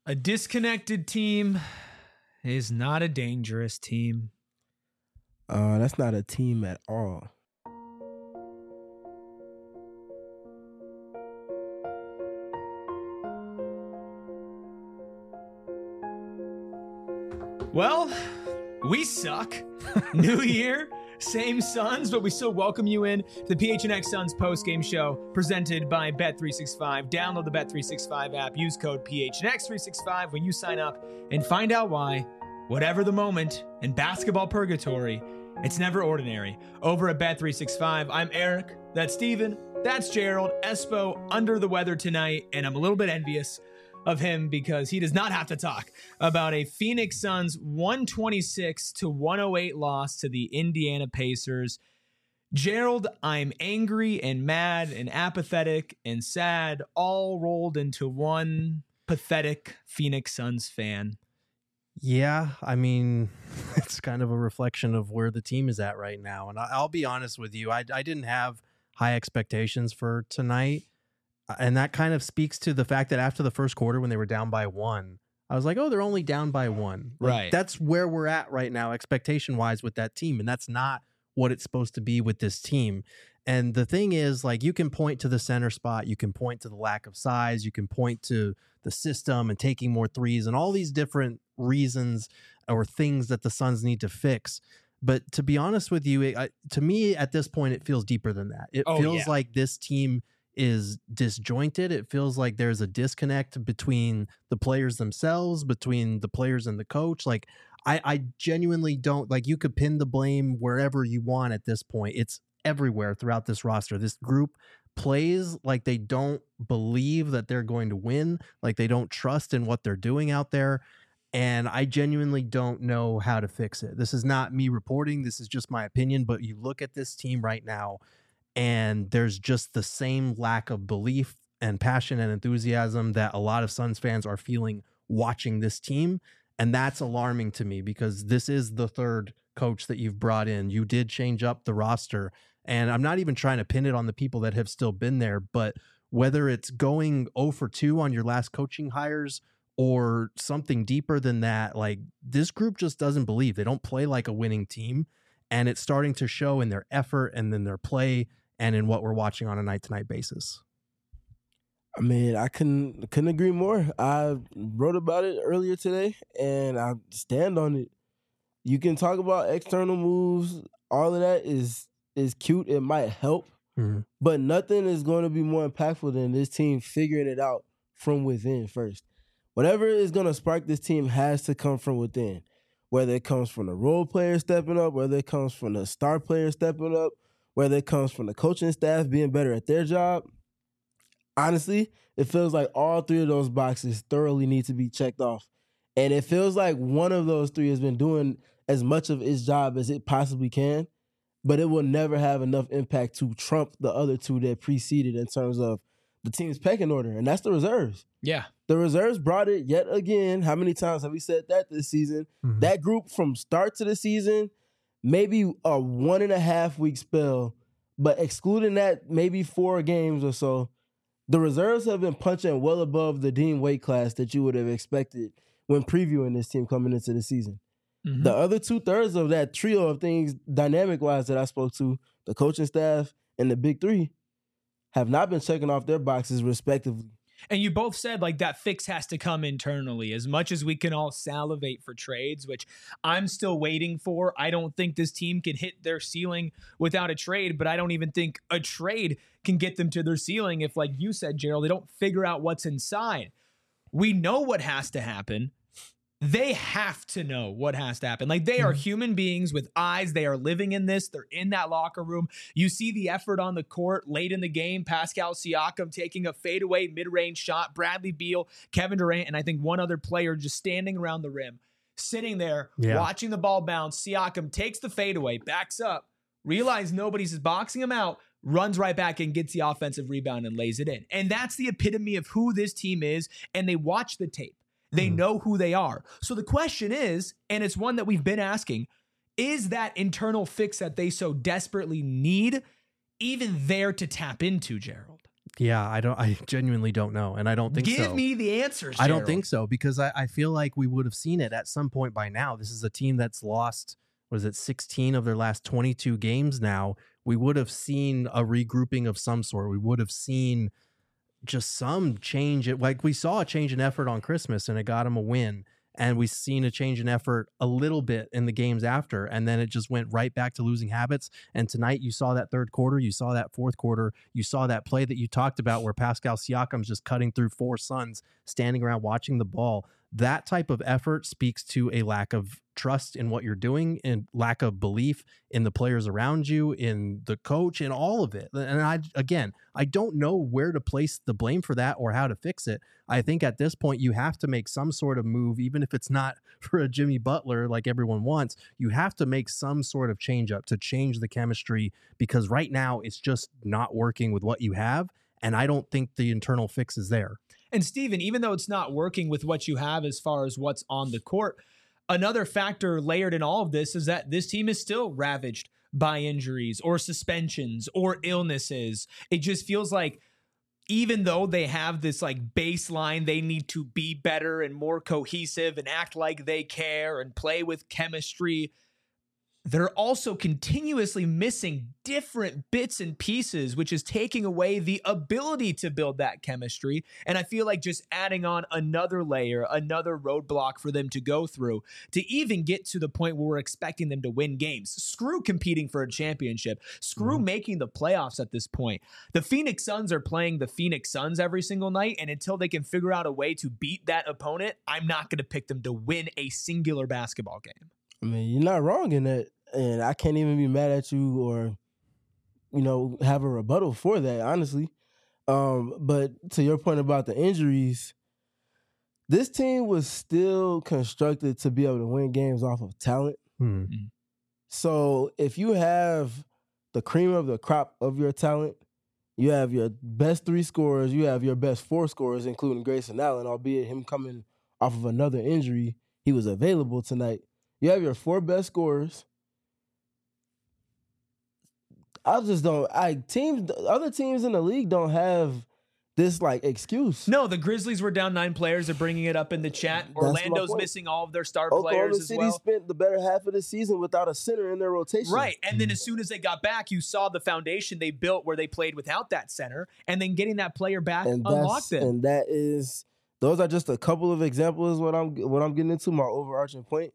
A disconnected team is not a dangerous team. That's not a team at all. Well, we suck. New year, same Suns, but we still welcome you in to the PHNX Suns post-game show presented by Bet365. Download the Bet365 app. Use code PHNX365 when you sign up and find out why, whatever the moment in basketball purgatory, it's never ordinary. Over at Bet365, I'm Eric. That's Steven. That's Gerald. Espo under the weather tonight, and I'm a little bit envious of him because he does not have to talk about a Phoenix Suns 126-108 loss to the Indiana Pacers. Gerald, I'm angry and mad and apathetic and sad, all rolled into one pathetic Phoenix Suns fan. Yeah, I mean, it's kind of a reflection of where the team is at right now. And I'll be honest with you, I didn't have high expectations for tonight. And that kind of speaks to the fact that after the first quarter, when they were down by one, I was like, oh, they're only down by one. Right. That's where we're at right now, expectation-wise, with that team. And that's not what it's supposed to be with this team. And the thing is, like, you can point to the center spot. You can point to the lack of size. You can point to the system and taking more threes and all these different reasons or things that the Suns need to fix. But to be honest with you, to me, at this point, it feels deeper than that. It feels like this team is disjointed. It feels like there's a disconnect between the players themselves, between the players and the coach. Like, I genuinely don't, like, you could pin the blame wherever you want at this point. It's everywhere throughout this roster. This group plays like they don't believe that they're going to win, like they don't trust in what they're doing out there. And I genuinely don't know how to fix it. This is not me reporting. This is just my opinion. But you look at this team right now, and there's just the same lack of belief and passion and enthusiasm that a lot of Suns fans are feeling watching this team. And that's alarming to me because this is the third coach that you've brought in. You did change up the roster. And I'm not even trying to pin it on the people that have still been there, but whether it's going 0 for 2 on your last coaching hires or something deeper than that, like, this group just doesn't believe. They don't play like a winning team. And it's starting to show in their effort and in their play and in what we're watching on a night-to-night basis. I mean, I couldn't agree more. I wrote about it earlier today, and I stand on it. You can talk about external moves. All of that is cute. It might help, but nothing is going to be more impactful than this team figuring it out from within first. Whatever is going to spark this team has to come from within, whether it comes from the role players stepping up, whether it comes from the star players stepping up, whether it comes from the coaching staff being better at their job. Honestly, it feels like all three of those boxes thoroughly need to be checked off. And it feels like one of those three has been doing as much of its job as it possibly can, but it will never have enough impact to trump the other two that preceded in terms of the team's pecking order, and that's the reserves. Yeah. The reserves brought it yet again. How many times have we said that this season? That group from start to the season, maybe a 1.5 week spell, but excluding that, maybe 4 games or so, the reserves have been punching well above the deemed weight class that you would have expected when previewing this team coming into the season. The other 2/3 of that trio of things, dynamic-wise, that I spoke to, the coaching staff and the big three, have not been checking off their boxes respectively. And you both said, like, that fix has to come internally. As much as we can all salivate for trades, which I'm still waiting for, I don't think this team can hit their ceiling without a trade, but I don't even think a trade can get them to their ceiling if, like you said, Gerald, they don't figure out what's inside. We know what has to happen. They have to know what has to happen. Like, they are human beings with eyes. They are living in this. They're in that locker room. You see the effort on the court late in the game. Pascal Siakam taking a fadeaway mid-range shot. Bradley Beal, Kevin Durant, and I think one other player just standing around the rim, sitting there, watching the ball bounce. Siakam takes the fadeaway, backs up, realizes nobody's boxing him out, runs right back and gets the offensive rebound and lays it in. And that's the epitome of who this team is, and they watch the tape. They know who they are. So the question is, and it's one that we've been asking, is that internal fix that they so desperately need even there to tap into, Gerald? Yeah, I genuinely don't know. And I don't think so. Give me the answers, I don't Gerald. think so, because I feel like we would have seen it at some point by now. This is a team that's lost, what is it, 16 of their last 22 games now. We would have seen a regrouping of some sort. We would have seen just some change. Like we saw a change in effort on Christmas and it got them a win. And we've seen a change in effort a little bit in the games after. And then it just went right back to losing habits. And tonight you saw that third quarter, you saw that fourth quarter, you saw that play that you talked about where Pascal Siakam's just cutting through four Suns, standing around watching the ball. That type of effort speaks to a lack of trust in what you're doing and lack of belief in the players around you, in the coach, in all of it. And I don't know where to place the blame for that or how to fix it. I think at this point you have to make some sort of move, even if it's not for a Jimmy Butler like everyone wants. You have to make some sort of change up to change the chemistry, because right now it's just not working with what you have. And I don't think the internal fix is there. And Steven, even though it's not working with what you have as far as what's on the court, another factor layered in all of this is that this team is still ravaged by injuries or suspensions or illnesses. It just feels like even though they have this like baseline, they need to be better and more cohesive and act like they care and play with chemistry, they're also continuously missing different bits and pieces, which is taking away the ability to build that chemistry. And I feel like just adding on another layer, another roadblock for them to go through to even get to the point where we're expecting them to win games. Screw competing for a championship. Screw making the playoffs at this point. The Phoenix Suns are playing the Phoenix Suns every single night, and until they can figure out a way to beat that opponent, I'm not going to pick them to win a singular basketball game. I mean, you're not wrong in that. And I can't even be mad at you or, have a rebuttal for that, honestly. But to your point about the injuries, this team was still constructed to be able to win games off of talent. Mm-hmm. So if you have the cream of the crop of your talent, you have your best three scorers, you have your best four scorers, including Grayson Allen, albeit him coming off of another injury, he was available tonight. You have your four best scorers. Other teams in the league don't have this like excuse. No, the Grizzlies were down 9 players. They're bringing it up in the chat. Orlando's missing all of their star players as well. Oklahoma City spent the better half of the season without a center in their rotation. Right, and then as soon as they got back, you saw the foundation they built where they played without that center, and then getting that player back unlocked them. And those are just a couple of examples. What I'm getting into, my overarching point.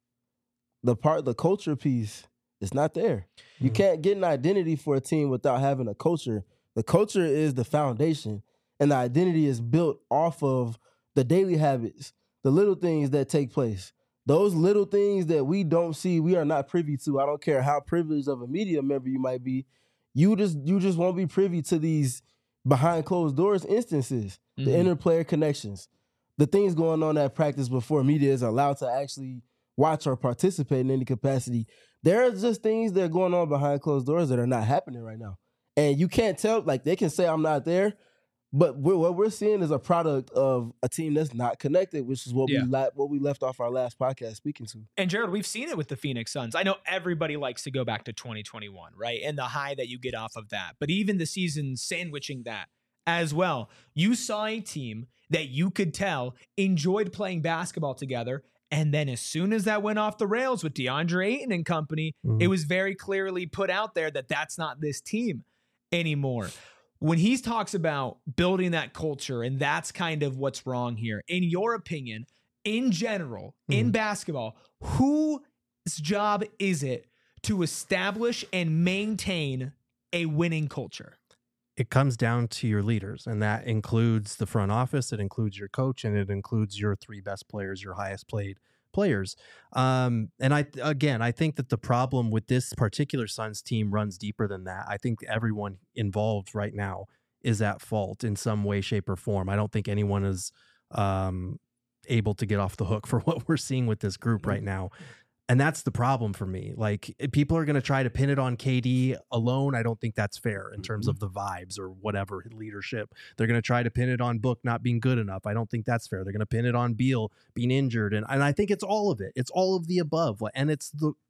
The culture piece is not there. You can't get an identity for a team without having a culture. The culture is the foundation, and the identity is built off of the daily habits, the little things that take place. Those little things that we don't see, we are not privy to. I don't care how privileged of a media member you might be. You just won't be privy to these behind closed doors instances, the inter-player connections, the things going on at practice before media is allowed to actually watch or participate in any capacity. There are just things that are going on behind closed doors that are not happening right now. And you can't tell, like they can say I'm not there, but what we're seeing is a product of a team that's not connected, which is what we left off our last podcast speaking to. And Gerald, we've seen it with the Phoenix Suns. I know everybody likes to go back to 2021, right? And the high that you get off of that. But even the season sandwiching that as well. You saw a team that you could tell enjoyed playing basketball together. And then as soon as that went off the rails with DeAndre Ayton and company, it was very clearly put out there that that's not this team anymore. When he talks about building that culture, and that's kind of what's wrong here, in your opinion, in general, in basketball, whose job is it to establish and maintain a winning culture? It comes down to your leaders, and that includes the front office, it includes your coach, and it includes your 3 best players, your highest paid players. And I think that the problem with this particular Suns team runs deeper than that. I think everyone involved right now is at fault in some way, shape, or form. I don't think anyone is able to get off the hook for what we're seeing with this group right now. And that's the problem for me. Like, people are going to try to pin it on KD alone. I don't think that's fair in terms of the vibes or whatever leadership. They're going to try to pin it on Book not being good enough. I don't think that's fair. They're going to pin it on Beal being injured. And I think it's all of it. It's all of the above. And it's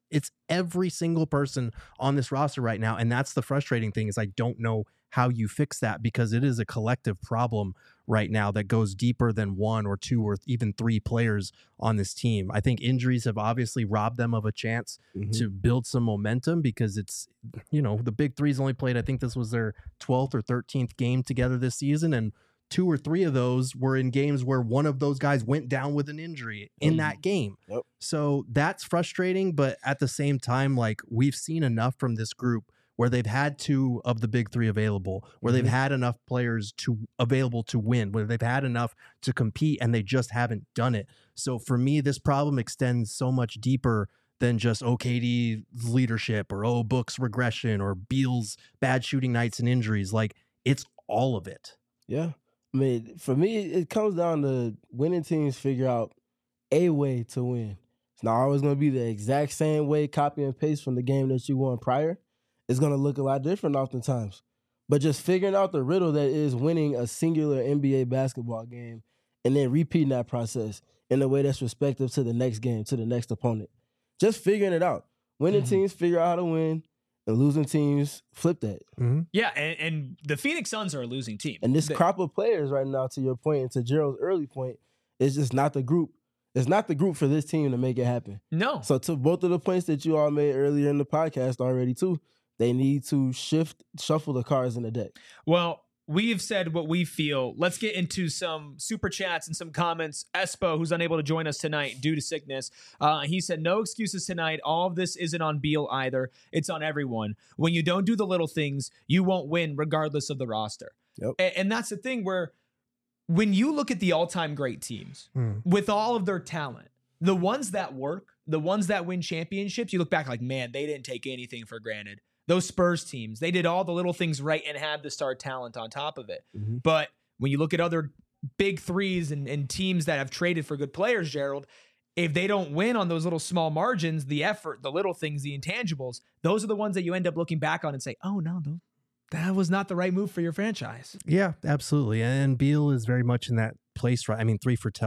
It's every single person on this roster right now. And that's the frustrating thing, is I don't know how you fix that, because it is a collective problem right now that goes deeper than one or two or even three players on this team. I think injuries have obviously robbed them of a chance to build some momentum, because it's, the big three's only played, I think this was their 12th or 13th game together this season. And 2 or 3 of those were in games where one of those guys went down with an injury in that game. Yep. So that's frustrating. But at the same time, like, we've seen enough from this group where they've had 2 of the big 3 available, where they've had enough players available to win, where they've had enough to compete, and they just haven't done it. So for me, this problem extends so much deeper than just KD's leadership, or Book's regression, or Beal's bad shooting nights and injuries. Like, it's all of it. Yeah. I mean, for me, it comes down to winning teams figure out a way to win. It's not always going to be the exact same way, copy and paste from the game that you won prior. It's going to look a lot different oftentimes. But just figuring out the riddle that is winning a singular NBA basketball game, and then repeating that process in a way that's respective to the next game, to the next opponent. Just figuring it out. Winning teams figure out how to win, and losing teams flip that. Yeah, and the Phoenix Suns are a losing team. And this crop of players right now, to your point, and to Gerald's early point, is just not the group. It's not the group for this team to make it happen. No. So to both of the points that you all made earlier in the podcast already too, they need to shuffle the cards in the deck. Well, we've said what we feel. Let's get into some super chats and some comments. Espo, who's unable to join us tonight due to sickness, he said, no excuses tonight. All of this isn't on Beal either. It's on everyone. When you don't do the little things, you won't win regardless of the roster. Yep. And that's the thing, where when you look at the all-time great teams with all of their talent, the ones that work, the ones that win championships, you look back like, man, they didn't take anything for granted. Those Spurs teams, they did all the little things right and had the star talent on top of it. But when you look at other big threes and teams that have traded for good players, Gerald, if they don't win on those little small margins, the effort, the little things, the intangibles, those are the ones that you end up looking back on and say, oh, no, that was not the right move for your franchise. Yeah, absolutely. And Beal is very much in that place, right? I mean, 3 for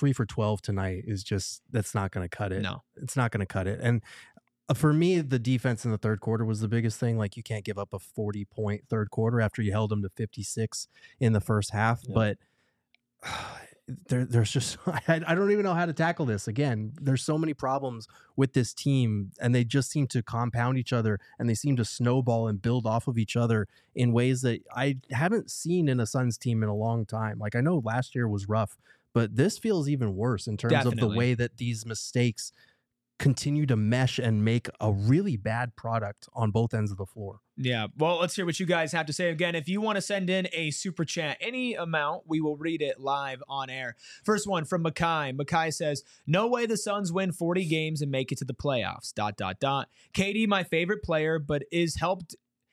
12 tonight is just, that's not going to cut it. No. It's not going to cut it. And for me, the defense in the third quarter was the biggest thing. Like, you can't give up a 40-point third quarter after you held them to 56 in the first half. Yeah. But there's just, I don't even know how to tackle this. Again, there's so many problems with this team, and they just seem to compound each other, and they seem to snowball and build off of each other in ways that I haven't seen in a Suns team in a long time. Like, I know last year was rough, but this feels even worse in terms of the way that these mistakes continue to mesh and make a really bad product on both ends of the floor. Yeah. Well, let's hear what you guys have to say. Again, if you want to send in a super chat, any amount, we will read it live on air. First one from Makai. Makai says, no way the Suns win 40 games and make it to the playoffs. ... KD, my favorite player, but his help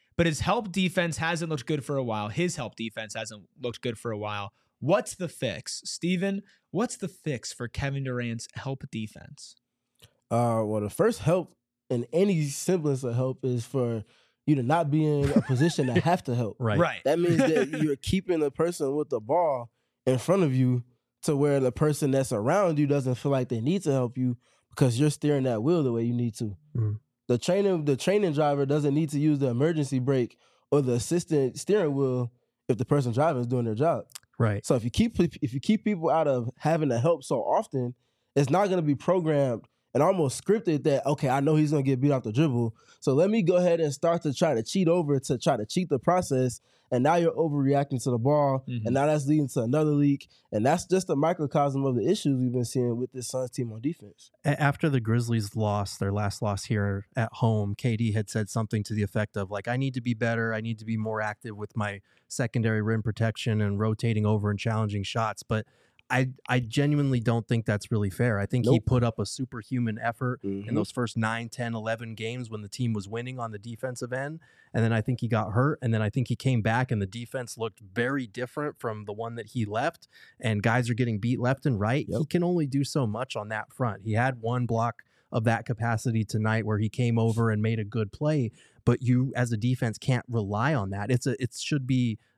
defense hasn't looked good for a while. His help defense hasn't looked good for a while. What's the fix? Steven, what's the fix for Kevin Durant's help defense? Well, the first help in any semblance of help is for you to not be in a position to have to help. Right. That means that you're keeping the person with the ball in front of you to where the person that's around you doesn't feel like they need to help you because you're steering that wheel the way you need to. The training driver doesn't need to use the emergency brake or the assistant steering wheel if the person driving is doing their job. Right. So if you keep people out of having to help so often, it's not going to be programmed and almost scripted that, okay, I know he's going to get beat off the dribble, so let me go ahead and start to try to cheat the process, and now you're overreacting to the ball, and now that's leading to another leak, and that's just a microcosm of the issues we've been seeing with this Suns team on defense. After the Grizzlies lost their last loss here at home, KD had said something to the effect of, like, I need to be better, I need to be more active with my secondary rim protection and rotating over and challenging shots, but I genuinely don't think that's really fair. I think he put up a superhuman effort in those first 9, 10, 11 games when the team was winning on the defensive end. And then I think he got hurt. And then I think he came back and the defense looked very different from the one that he left. And guys are getting beat left and right. He can only do so much on that front. He had one block of that capacity tonight where he came over and made a good play. But you, as a defense, can't rely on that. It should be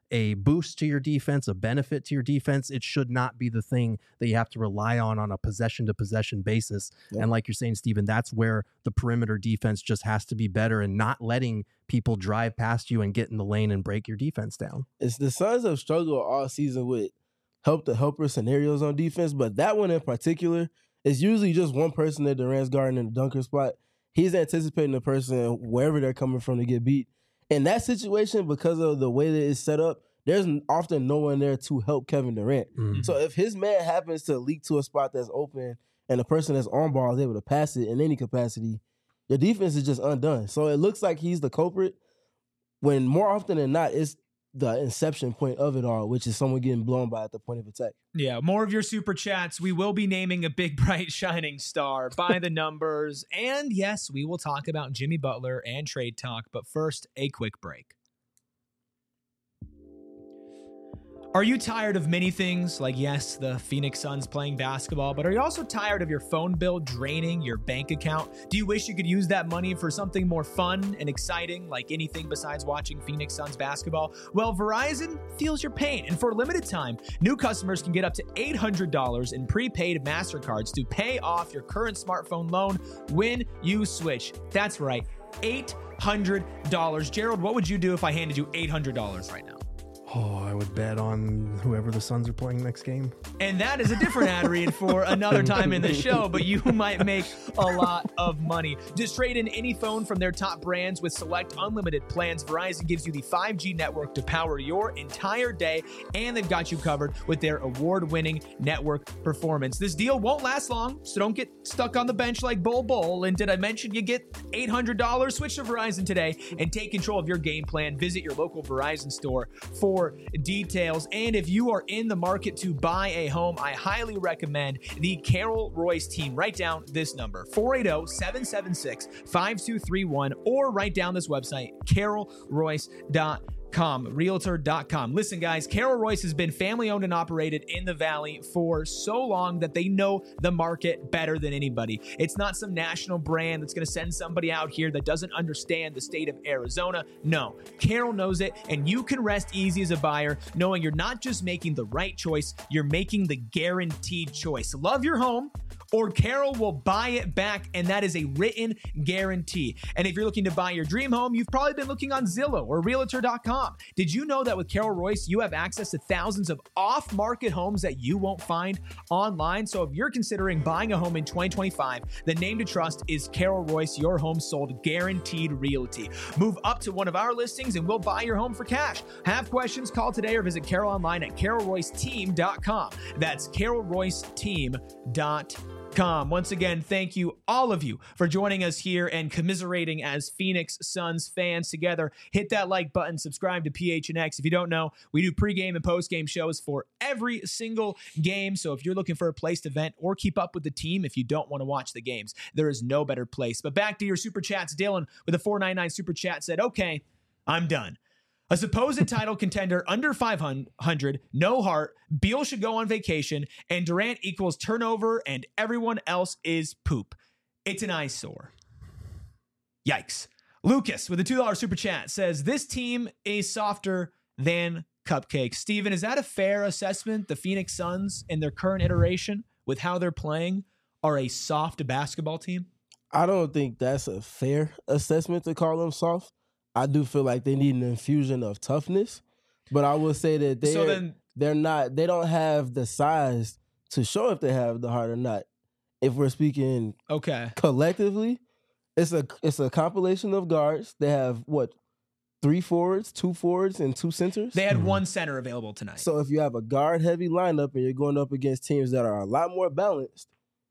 a boost to your defense, a benefit to your defense. It should not be the thing that you have to rely on a possession-to-possession basis. Yeah. And like you're saying, Steven, that's where the perimeter defense just has to be better and not letting people drive past you and get in the lane and break your defense down. It's the Suns have struggled all season with helper scenarios on defense, but that one in particular is usually just one person at Durant's guarding in the dunker spot. He's anticipating the person wherever they're coming from to get beat. In that situation, because of the way that it's set up, there's often no one there to help Kevin Durant. Mm-hmm. So if his man happens to leak to a spot that's open and the person that's on ball is able to pass it in any capacity, your defense is just undone. So it looks like he's the culprit when more often than not, it's the inception point of it all, which is someone getting blown by at the point of attack. Yeah, more of your super chats. We will be naming a big, bright, shining star by the numbers. And yes, we will talk about Jimmy Butler and trade talk. But first, a quick break. Are you tired of many things? Like, yes, the Phoenix Suns playing basketball, but are you also tired of your phone bill draining your bank account? Do you wish you could use that money for something more fun and exciting, like anything besides watching Phoenix Suns basketball? Well, Verizon feels your pain, and for a limited time, new customers can get up to $800 in prepaid MasterCards to pay off your current smartphone loan when you switch. That's right, $800. Gerald, what would you do if I handed you $800 right now? Oh, I would bet on whoever the Suns are playing next game. And that is a different ad read for another time in the show, but you might make a lot of money. Just trade in any phone from their top brands with select unlimited plans. Verizon gives you the 5G network to power your entire day, and they've got you covered with their award-winning network performance. This deal won't last long, so don't get stuck on the bench like Bull. And did I mention you get $800? Switch to Verizon today and take control of your game plan. Visit your local Verizon store for details. And if you are in the market to buy a home, I highly recommend the Carol Royce team. Write down this number, 480-776-5231, or write down this website, carolroyce.com. Realtor.com. Listen, guys, Carol Royce has been family owned and operated in the Valley for so long that they know the market better than anybody. It's not some national brand that's going to send somebody out here that doesn't understand the state of Arizona. No, Carol knows it, and you can rest easy as a buyer knowing you're not just making the right choice, you're making the guaranteed choice. Love your home, or Carol will buy it back, and that is a written guarantee. And if you're looking to buy your dream home, you've probably been looking on Zillow or Realtor.com. Did you know that with Carol Royce, you have access to thousands of off-market homes that you won't find online? So if you're considering buying a home in 2025, the name to trust is Carol Royce, your home sold guaranteed realty. Move up to one of our listings and we'll buy your home for cash. Have questions? Call today or visit Carol online at carolroyceteam.com. That's carolroyceteam.com. Once again, thank you, all of you, for joining us here and commiserating as Phoenix Suns fans together. Hit that like button, subscribe to PHNX. If you don't know, we do pregame and postgame shows for every single game. So if you're looking for a place to vent or keep up with the team, if you don't want to watch the games, there is no better place. But back to your super chats. Dylan with a $4.99 super chat said, okay, I'm done. A supposed title contender under 500, no heart, Beal should go on vacation, and Durant equals turnover, and everyone else is poop. It's an eyesore. Yikes. Lucas with a $2 super chat says, this team is softer than cupcakes. Steven, is that a fair assessment? The Phoenix Suns in their current iteration with how they're playing are a soft basketball team? I don't think that's a fair assessment to call them soft. I do feel like they need an infusion of toughness, but I will say that they don't have the size to show if they have the heart or not. If we're speaking collectively, it's a compilation of guards. They have 3 forwards, 2 forwards, and 2 centers. They had 1 center available tonight. So if you have a guard heavy lineup and you're going up against teams that are a lot more balanced,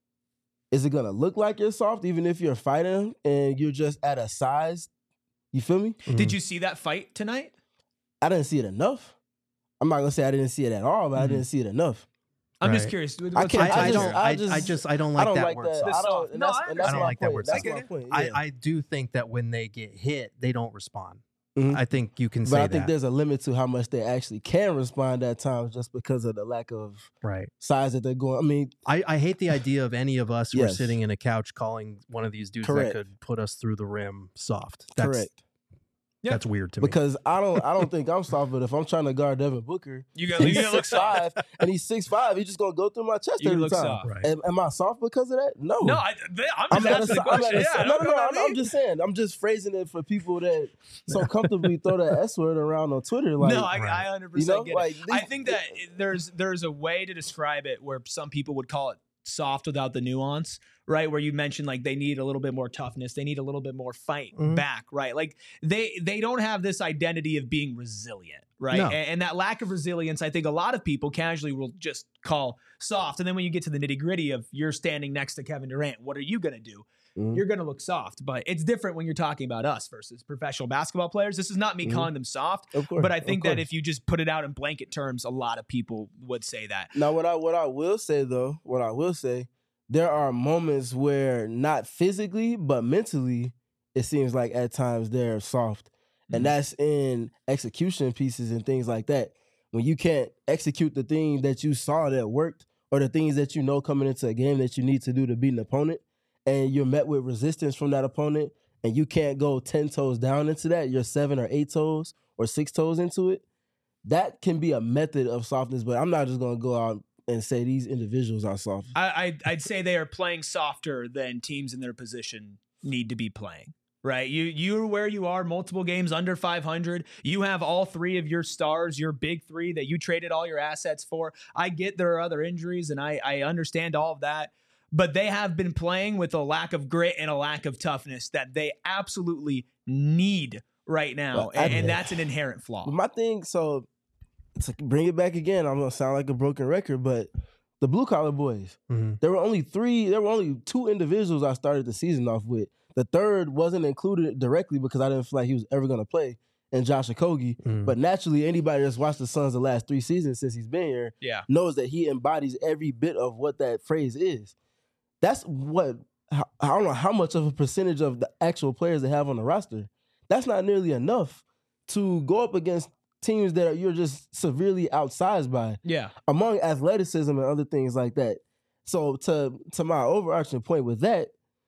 is it gonna look like you're soft even if you're fighting and you're just at a size? You feel me? Mm-hmm. Did you see that fight tonight? I didn't see it enough. I'm not gonna say I didn't see it at all, but I didn't see it enough. I'm just curious. I don't like that word. I don't like that word. That's my point. I do think that when they get hit, they don't respond. Mm-hmm. I think you can say that. But I think there's a limit to how much they actually can respond at times just because of the lack of size that they're going. I mean, I hate the idea of any of us who are sitting in a couch calling one of these dudes that could put us through the rim soft. Correct. Yeah. That's weird to me. Because I don't think I'm soft, but if I'm trying to guard Devin Booker, You're he's gonna look soft. 6'5", and he's 6'5", he's just gonna go through my chest You every look time. soft. Right. Am I soft because of that? No. No, I'm just asking the question. Yeah, I'm just saying. I'm just phrasing it for people that so comfortably throw that S word around on Twitter. Like, no, I 100% you know, get like, it. I think that there's a way to describe it where some people would call it soft without the nuance, right? Where you mentioned like they need a little bit more toughness, they need a little bit more fight back, right? Like they don't have this identity of being resilient, right? No. And that lack of resilience, I think a lot of people casually will just call soft. And then when you get to the nitty gritty of you're standing next to Kevin Durant, what are you gonna do? You're going to look soft, but it's different when you're talking about us versus professional basketball players. This is not me calling them soft, Of course, but I think of that course. if you just put it out in blanket terms, a lot of people would say that. Now, what I will say, there are moments where not physically but mentally, it seems like at times they're soft, and that's in execution pieces and things like that. When you can't execute the thing that you saw that worked, or the things that you know coming into a game that you need to do to beat an opponent, and you're met with resistance from that opponent, and you can't go 10 toes down into that, you're 7 or 8 toes or 6 toes into it, that can be a method of softness, but I'm not just going to go out and say these individuals are soft. I'd say they are playing softer than teams in their position need to be playing. Right, you're where you are, multiple games under 500. You have all three of your stars, your big three that you traded all your assets for. I get there are other injuries, and I understand all of that. But they have been playing with a lack of grit and a lack of toughness that they absolutely need right now. Well, and that's an inherent flaw. My thing, so to bring it back again, I'm going to sound like a broken record, but the blue collar boys, there were only 2 individuals I started the season off with. The third wasn't included directly because I didn't feel like he was ever going to play, and Josh Okogie. But naturally, anybody that's watched the Suns the last 3 seasons since he's been here knows that he embodies every bit of what that phrase is. That's what, I don't know how much of a percentage of the actual players they have on the roster. That's not nearly enough to go up against teams that you're just severely outsized by. Yeah. Among athleticism and other things like that. So to my overarching point with that,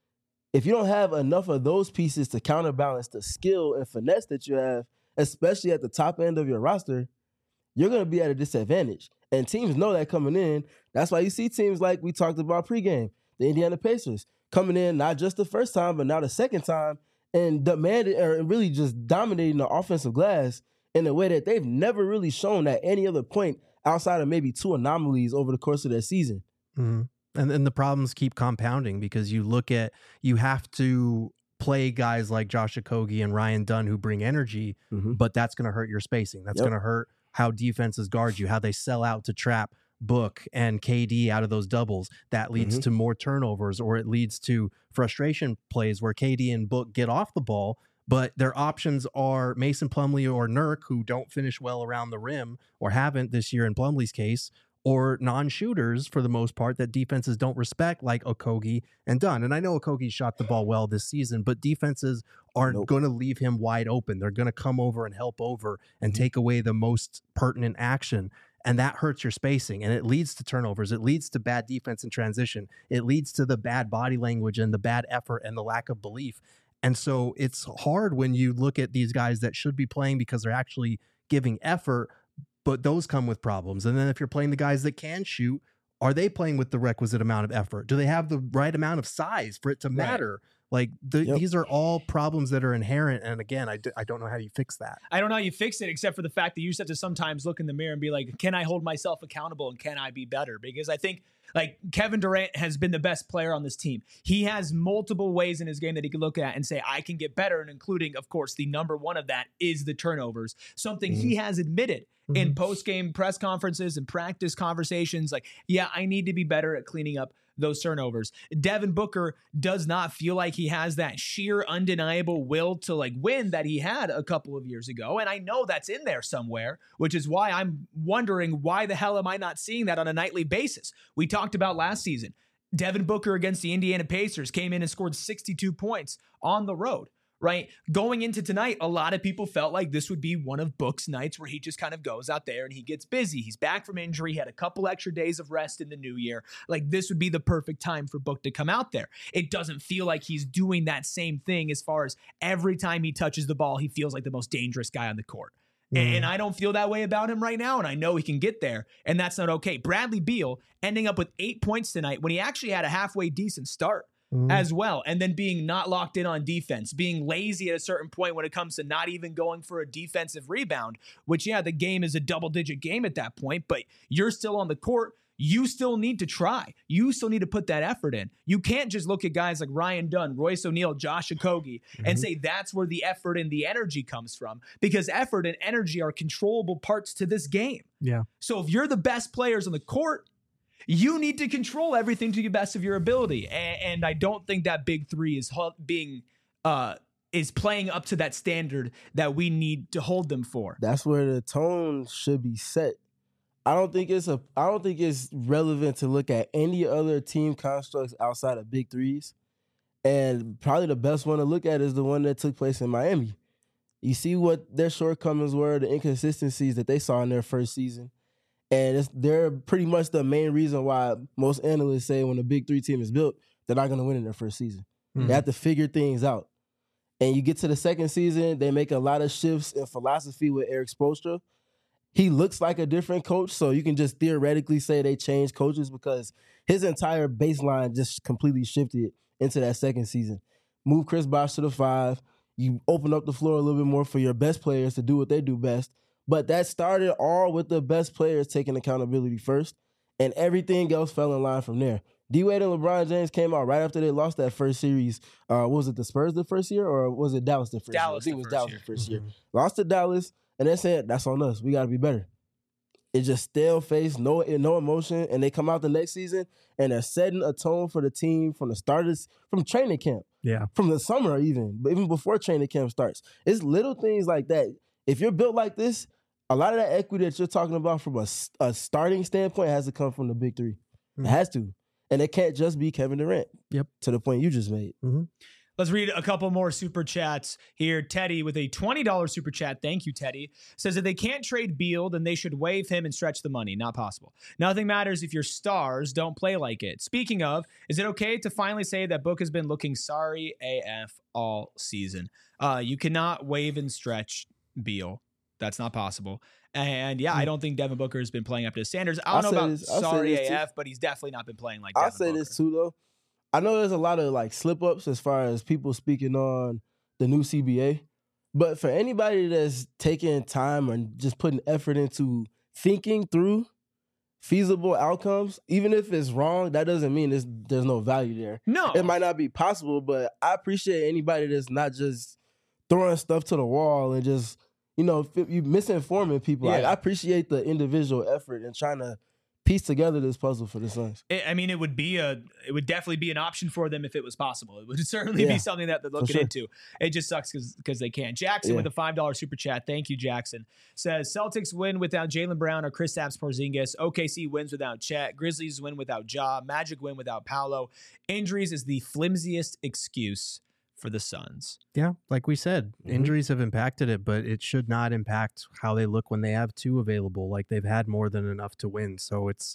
if you don't have enough of those pieces to counterbalance the skill and finesse that you have, especially at the top end of your roster, you're going to be at a disadvantage. And teams know that coming in. That's why you see teams like we talked about pregame, the Indiana Pacers, coming in not just the first time, but now the second time, and demanding or really just dominating the offensive glass in a way that they've never really shown at any other point outside of maybe 2 anomalies over the course of their season. And then the problems keep compounding because you have to play guys like Josh Okogie and Ryan Dunn who bring energy, but that's going to hurt your spacing. That's going to hurt how defenses guard you, how they sell out to trap Book and KD out of those doubles. That leads to more turnovers, or it leads to frustration plays where KD and Book get off the ball, but their options are Mason Plumlee or Nurk, who don't finish well around the rim or haven't this year in Plumlee's case, or non-shooters for the most part that defenses don't respect, like Okogie and Dunn. And I know Okogie shot the ball well this season, but defenses aren't going to leave him wide open. They're going to come over and help over and take away the most pertinent action. And that hurts your spacing, and it leads to turnovers. It leads to bad defense in transition. It leads to the bad body language and the bad effort and the lack of belief. And so it's hard when you look at these guys that should be playing because they're actually giving effort, but those come with problems. And then if you're playing the guys that can shoot, are they playing with the requisite amount of effort? Do they have the right amount of size for it to matter? Like these are all problems that are inherent. And again, I don't know how you fix that. I don't know how you fix it, except for the fact that you just have to sometimes look in the mirror and be like, can I hold myself accountable and can I be better? Because I think like Kevin Durant has been the best player on this team. He has multiple ways in his game that he can look at and say, I can get better. And including, of course, the number one of that is the turnovers, something he has admitted in post-game press conferences and practice conversations. Like, yeah, I need to be better at cleaning up those turnovers. Devin Booker does not feel like he has that sheer undeniable will to like win that he had a couple of years ago. And I know that's in there somewhere, which is why I'm wondering why the hell am I not seeing that on a nightly basis? We talked about last season. Devin Booker against the Indiana Pacers came in and scored 62 points on the road, right? Going into tonight, a lot of people felt like this would be one of Book's nights where he just kind of goes out there and he gets busy. He's back from injury. He had a couple extra days of rest in the new year. Like, this would be the perfect time for Book to come out there. It doesn't feel like he's doing that same thing as far as every time he touches the ball, he feels like the most dangerous guy on the court. And I don't feel that way about him right now, and I know he can get there, and that's not okay. Bradley Beal ending up with 8 points tonight when he actually had a halfway decent start as well, and then being not locked in on defense, being lazy at a certain point when it comes to not even going for a defensive rebound, which, yeah, the game is a double-digit game at that point, but you're still on the court. You still need to try. You still need to put that effort in. You can't just look at guys like Ryan Dunn, Royce O'Neal, Josh Okogie, and say that's where the effort and the energy comes from, because effort and energy are controllable parts to this game. Yeah. So if you're the best players on the court, you need to control everything to the best of your ability. And I don't think that big three is playing up to that standard that we need to hold them for. That's where the tone should be set. I don't think it's relevant to look at any other team constructs outside of big threes. And probably the best one to look at is the one that took place in Miami. You see what their shortcomings were, the inconsistencies that they saw in their first season. And they're pretty much the main reason why most analysts say when a big three team is built, they're not going to win in their first season. They have to figure things out. And you get to the second season, they make a lot of shifts in philosophy with Eric Spoelstra. He looks like a different coach, so you can just theoretically say they changed coaches because his entire baseline just completely shifted into that second season. Move Chris Bosh to the 5. You open up the floor a little bit more for your best players to do what they do best. But that started all with the best players taking accountability first, and everything else fell in line from there. D-Wade and LeBron James came out right after they lost that first series. Was it the Spurs the first year, or was it Dallas the first year? I think it was Dallas the first year. Lost to Dallas. And they said, that's on us. We got to be better. It's just stale face, no emotion. And they come out the next season, and they're setting a tone for the team from the starters, from training camp. Yeah. From the summer even. But even before training camp starts. It's little things like that. If you're built like this, a lot of that equity that you're talking about from a starting standpoint has to come from the big three. It has to. And it can't just be Kevin Durant. Yep. To the point you just made. Let's read a couple more super chats here. Teddy with a $20 super chat. Thank you, Teddy. Says that they can't trade Beal, then they should waive him and stretch the money. Not possible. Nothing matters if your stars don't play like it. Speaking of, is it okay to finally say that Book has been looking sorry AF all season? You cannot waive and stretch Beal. That's not possible. And yeah, I don't think Devin Booker has been playing up to his standards. I don't know about sorry AF, but he's definitely not been playing like Devin Booker. I'll say this too, though. I know there's a lot of like slip-ups as far as people speaking on the new CBA, but for anybody that's taking time and just putting effort into thinking through feasible outcomes, even if it's wrong, that doesn't mean there's no value there. No. It might not be possible, but I appreciate anybody that's not just throwing stuff to the wall and just, you misinforming people. Yeah. I appreciate the individual effort and trying to piece together this puzzle for the Suns. I mean, it would definitely be an option for them if it was possible. It would certainly be something that they're looking into. It just sucks because they can't. Jackson with a $5 super chat. Thank you, Jackson. Says Celtics win without Jaylen Brown or Kristaps Porzingis. OKC wins without Chet. Grizzlies win without Ja. Magic win without Paolo. Injuries is the flimsiest excuse for the Suns. Yeah, like we said, injuries have impacted it, but it should not impact how they look when they have two available. Like they've had more than enough to win, so it's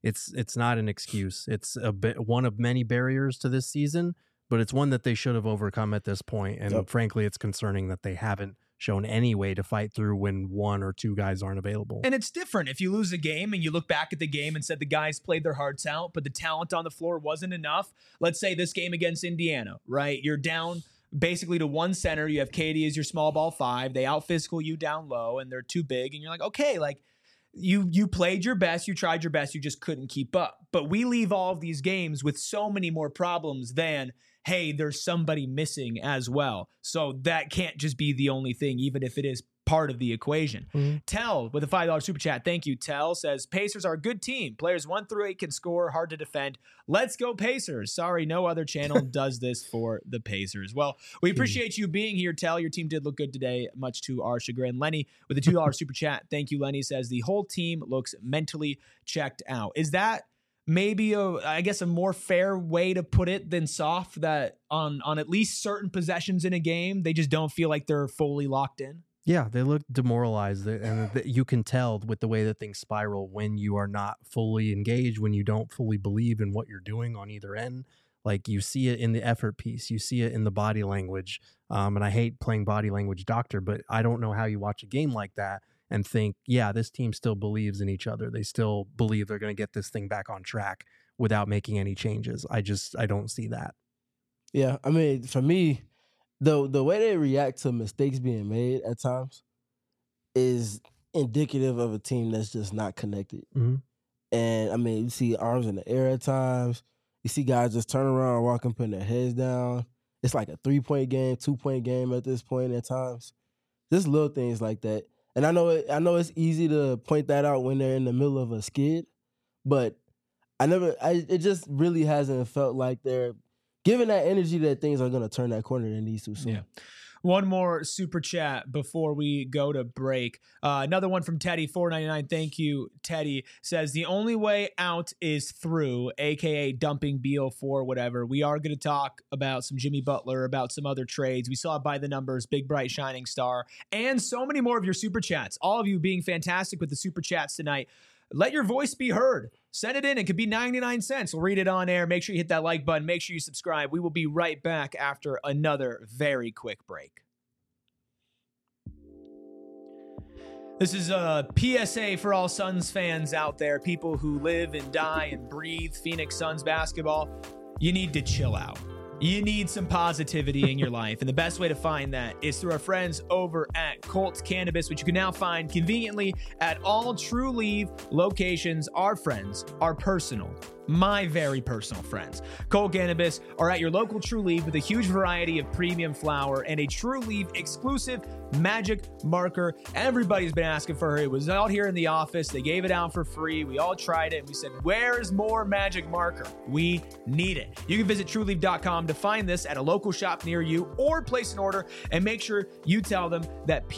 not an excuse. It's one of many barriers to this season, but it's one that they should have overcome at this point. And frankly, it's concerning that they haven't shown any way to fight through when one or two guys aren't available. And it's different if you lose a game and you look back at the game and said the guys played their hearts out, but the talent on the floor wasn't enough. Let's say this game against Indiana, right? You're down basically to one center. You have Katie as your small ball 5. They out physical you down low and they're too big. And you're like, okay, like you played your best, you tried your best, you just couldn't keep up. But we leave all of these games with so many more problems than, hey, there's somebody missing as well. So that can't just be the only thing, even if it is part of the equation. Tell with a $5 super chat. Thank you, Tell. Says Pacers are a good team. Players 1 through 8 can score, hard to defend. Let's go Pacers. Sorry, no other channel does this for the Pacers. Well, we appreciate you being here, Tell. Your team did look good today, much to our chagrin. Lenny with a $2 super chat. Thank you, Lenny. Says the whole team looks mentally checked out. Is that maybe I guess a more fair way to put it than soft, that on at least certain possessions in a game, they just don't feel like they're fully locked in? Yeah, they look demoralized, and you can tell with the way that things spiral when you are not fully engaged, when you don't fully believe in what you're doing on either end. Like, you see it in the effort piece, you see it in the body language. And I hate playing body language doctor, but I don't know how you watch a game like that and think, yeah, this team still believes in each other. They still believe they're going to get this thing back on track without making any changes. I don't see that. Yeah, I mean, for me, the way they react to mistakes being made at times is indicative of a team that's just not connected. Mm-hmm. And I mean, you see arms in the air at times. You see guys just turn around, walking, putting their heads down. It's like a 3-point game, 2-point game at this point at times. Just little things like that. And I know it's easy to point that out when they're in the middle of a skid, but it just really hasn't felt like they're giving that energy that things are going to turn that corner in these two soon. Yeah. One more super chat before we go to break. Another one from Teddy, $4.99. Thank you, Teddy. Says, the only way out is through, a.k.a. dumping Beal for whatever. We are going to talk about some Jimmy Butler, about some other trades. We saw by the numbers, big, bright, shining star, and so many more of your super chats. All of you being fantastic with the super chats tonight. Let your voice be heard. Send it in. It could be 99 cents. We'll read it on air. Make sure you hit that like button. Make sure you subscribe. We will be right back after another very quick break. This is a PSA for all Suns fans out there, people who live and die and breathe Phoenix Suns basketball. You need to chill out. You need some positivity in your life, and the best way to find that is through our friends over at Colt Cannabis, which you can now find conveniently at all True Leaf locations. Our friends are personal, my very personal friends. Colt Cannabis are at your local True Leaf with a huge variety of premium flower and a True Leaf exclusive magic marker. Everybody's been asking for it. It was out here in the office. They gave it out for free. We all tried it, and we said, where's more magic marker? We need it. You can visit TrueLeaf.com to find this at a local shop near you, or place an order, and make sure you tell them that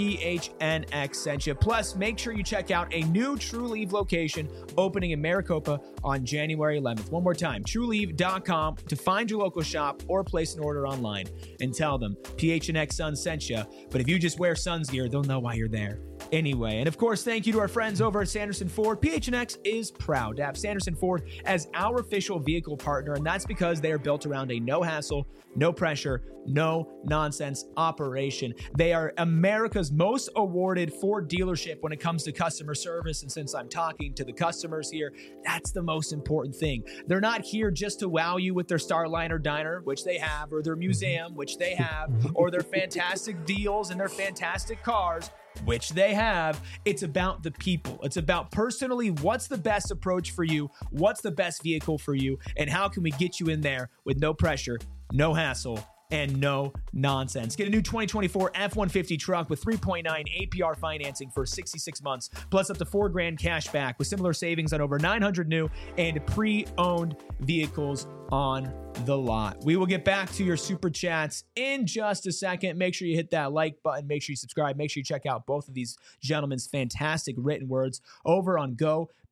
PHNX sent you. Plus, make sure you check out a new True Leaf location opening in Maricopa on January 11th. One more time, TrueLeaf.com to find your local shop or place an order online, and tell them PHNX Suns sent you. But if you just wear Suns gear, they'll know why you're there anyway. And of course, thank you to our friends over at Sanderson Ford. PHNX is proud to have Sanderson Ford as our official vehicle partner, and that's because they are built around a no hassle, no pressure, no nonsense operation. They are America's most awarded Ford dealership when it comes to customer service. And since I'm talking to the customers here, that's the most important thing. They're not here just to wow you with their Starliner diner, which they have, or their museum, which they have, or their fantastic deals and their fantastic cars, which they have. It's about the people. It's about personally, what's the best approach for you? What's the best vehicle for you? And how can we get you in there with no pressure, no hassle, and no nonsense? Get a new 2024 F-150 truck with 3.9 APR financing for 66 months, plus up to $4,000 cash back with similar savings on over 900 new and pre-owned vehicles on the lot. We will get back to your super chats in just a second. Make sure you hit that like button. Make sure you subscribe. Make sure you check out both of these gentlemen's fantastic written words over on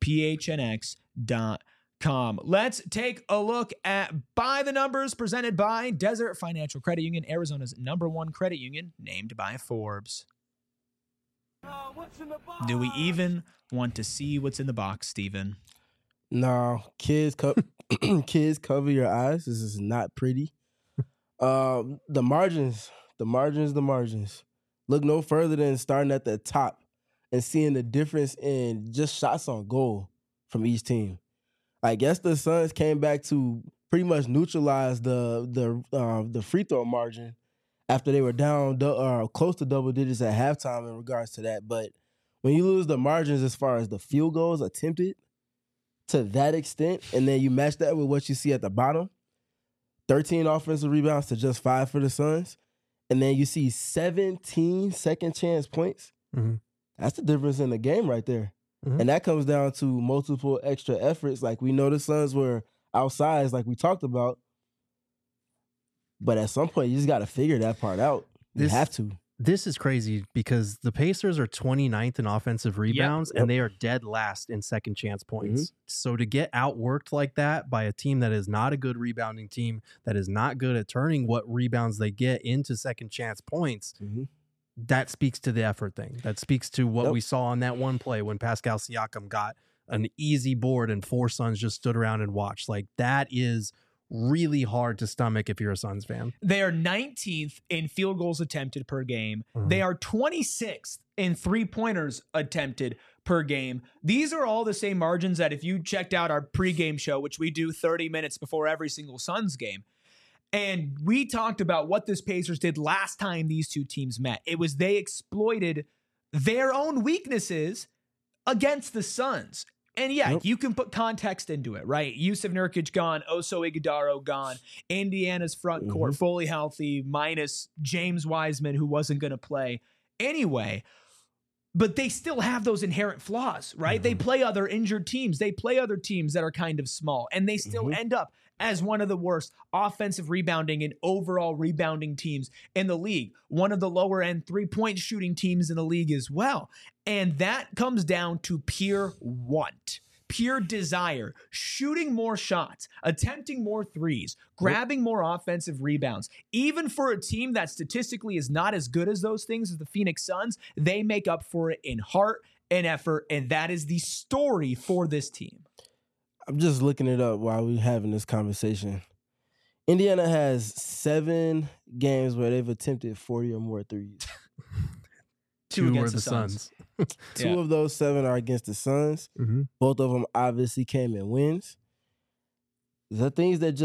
GoPHNX.com. Let's take a look at By the Numbers, presented by Desert Financial Credit Union, Arizona's #1 credit union, named by Forbes. Do we even want to see what's in the box, Steven? No, kids cover your eyes. This is not pretty. The margins. Look no further than starting at the top and seeing the difference in just shots on goal from each team. I guess the Suns came back to pretty much neutralize the free throw margin after they were down close to double digits at halftime in regards to that. But when you lose the margins as far as the field goals attempted to that extent, and then you match that with what you see at the bottom, 13 offensive rebounds to just 5 for the Suns, and then you see 17 second chance points, that's the difference in the game right there. And that comes down to multiple extra efforts. Like, we know the Suns were outsized, like we talked about. But at some point, you just got to figure that part out. You have to. this is crazy because the Pacers are 29th in offensive rebounds and they are dead last in second chance points. So to get outworked like that by a team that is not a good rebounding team, that is not good at turning what rebounds they get into second chance points, that speaks to the effort thing. That speaks to what we saw on that one play when Pascal Siakam got an easy board and 4 Suns just stood around and watched. Like, that is really hard to stomach if you're a Suns fan. They are 19th in field goals attempted per game. They are 26th in 3-pointers attempted per game. These are all the same margins that if you checked out our pregame show, which we do 30 minutes before every single Suns game, and we talked about what this Pacers did last time these two teams met. It was they exploited their own weaknesses against the Suns. And you can put context into it, right? Yusuf Nurkic gone, Oso Ighodaro gone, Indiana's front court fully healthy, minus James Wiseman, who wasn't going to play anyway. But they still have those inherent flaws, right? They play other injured teams. They play other teams that are kind of small, and they still end up as one of the worst offensive rebounding and overall rebounding teams in the league. One of the lower end 3-point shooting teams in the league as well. And that comes down to pure want, pure desire, shooting more shots, attempting more threes, grabbing more offensive rebounds. Even for a team that statistically is not as good as those things as the Phoenix Suns, they make up for it in heart and effort. And that is the story for this team. I'm just looking it up while we're having this conversation. Indiana has 7 games where they've attempted 40 or more threes. 2 against are the Suns. 2 of those 7 are against the Suns. Both of them obviously came in wins. The things that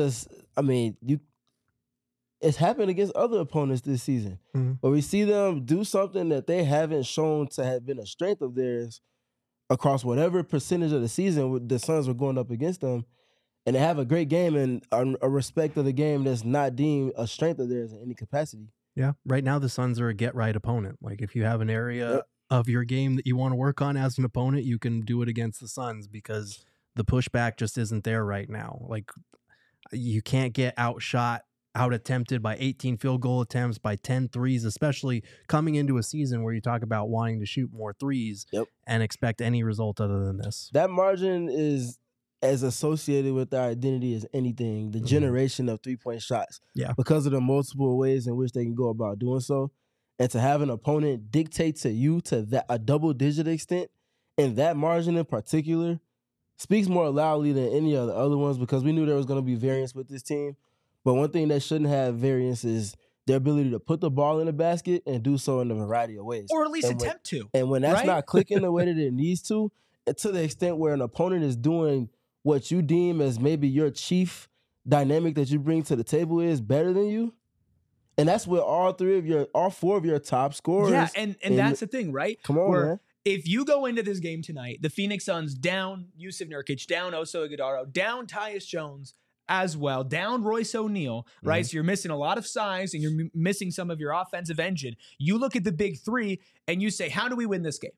it's happened against other opponents this season. But we see them do something that they haven't shown to have been a strength of theirs across whatever percentage of the season the Suns were going up against them, and they have a great game and a respect of the game that's not deemed a strength of theirs in any capacity. Yeah, right now the Suns are a get-right opponent. Like, if you have an area of your game that you want to work on as an opponent, you can do it against the Suns because the pushback just isn't there right now. Like, you can't get outshot, out-attempted by 18 field goal attempts, by 10 threes, especially coming into a season where you talk about wanting to shoot more threes and expect any result other than this. That margin is as associated with our identity as anything, the generation of 3-point shots. Yeah. Because of the multiple ways in which they can go about doing so. And to have an opponent dictate to you to that a double-digit extent, and that margin in particular, speaks more loudly than any of the other ones because we knew there was going to be variance with this team. But one thing that shouldn't have variance is their ability to put the ball in the basket and do so in a variety of ways. Or at least attempt to. And when that's not clicking the way that it needs to the extent where an opponent is doing what you deem as maybe your chief dynamic that you bring to the table is better than you. And that's with all 4 of your top scorers. Yeah, and that's the thing, right? Come on, man. If you go into this game tonight, the Phoenix Suns down Yusuf Nurkic, down Oso Ighodaro, down Tyus Jones as well, down Royce O'Neal, right? So you're missing a lot of size and you're missing some of your offensive engine. You look at the big 3 and you say, how do we win this game?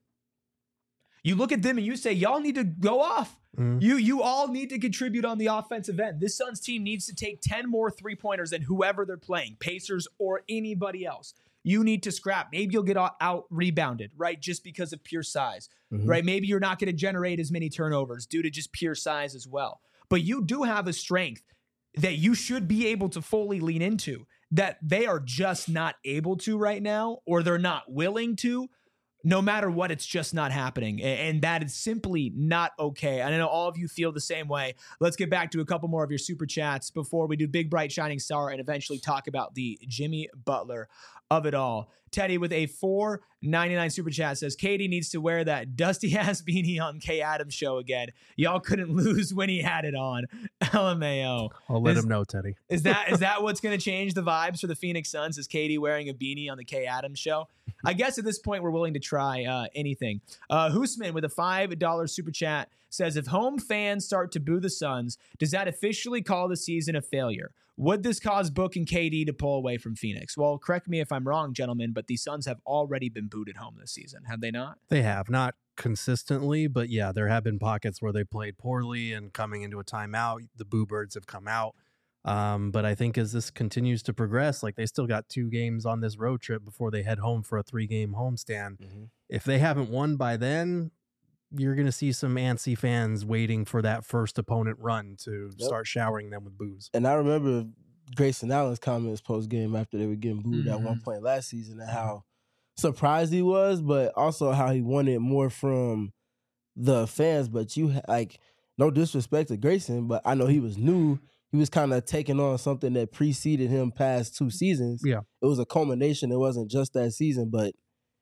You look at them and you say, y'all need to go off. You all need to contribute on the offensive end. This Suns team needs to take 10 more 3-pointers than whoever they're playing, Pacers or anybody else. You need to scrap. Maybe you'll get out rebounded, right? Just because of pure size, right? Maybe you're not going to generate as many turnovers due to just pure size as well. But you do have a strength that you should be able to fully lean into that they are just not able to right now, or they're not willing to. No matter what, it's just not happening. And that is simply not okay. I know all of you feel the same way. Let's get back to a couple more of your super chats before we do Big Bright Shining Star and eventually talk about the Jimmy Butler of it all. Teddy with a $4.99 super chat says, Katie needs to wear that dusty-ass beanie on Kay Adams show again. Y'all couldn't lose when he had it on. LMAO. I'll let him know, Teddy. Is that what's going to change the vibes for the Phoenix Suns? Is Katie wearing a beanie on the Kay Adams show? I guess at this point, we're willing to try anything. Hoosman with a $5 super chat says, if home fans start to boo the Suns, does that officially call the season a failure? Would this cause Book and KD to pull away from Phoenix? Well, correct me if I'm wrong, gentlemen, but the Suns have already been booed at home this season, have they not? They have, not consistently, but yeah, there have been pockets where they played poorly and coming into a timeout, the Boo Birds have come out. But I think as this continues to progress, like they still got 2 games on this road trip before they head home for a 3-game homestand. If they haven't won by then, you're going to see some antsy fans waiting for that first opponent run to start showering them with booze. And I remember Grayson Allen's comments post-game after they were getting booed at one point last season, and how surprised he was, but also how he wanted more from the fans. But no disrespect to Grayson, but I know he was new. He was kind of taking on something that preceded him past 2 seasons. Yeah. It was a culmination. It wasn't just that season, but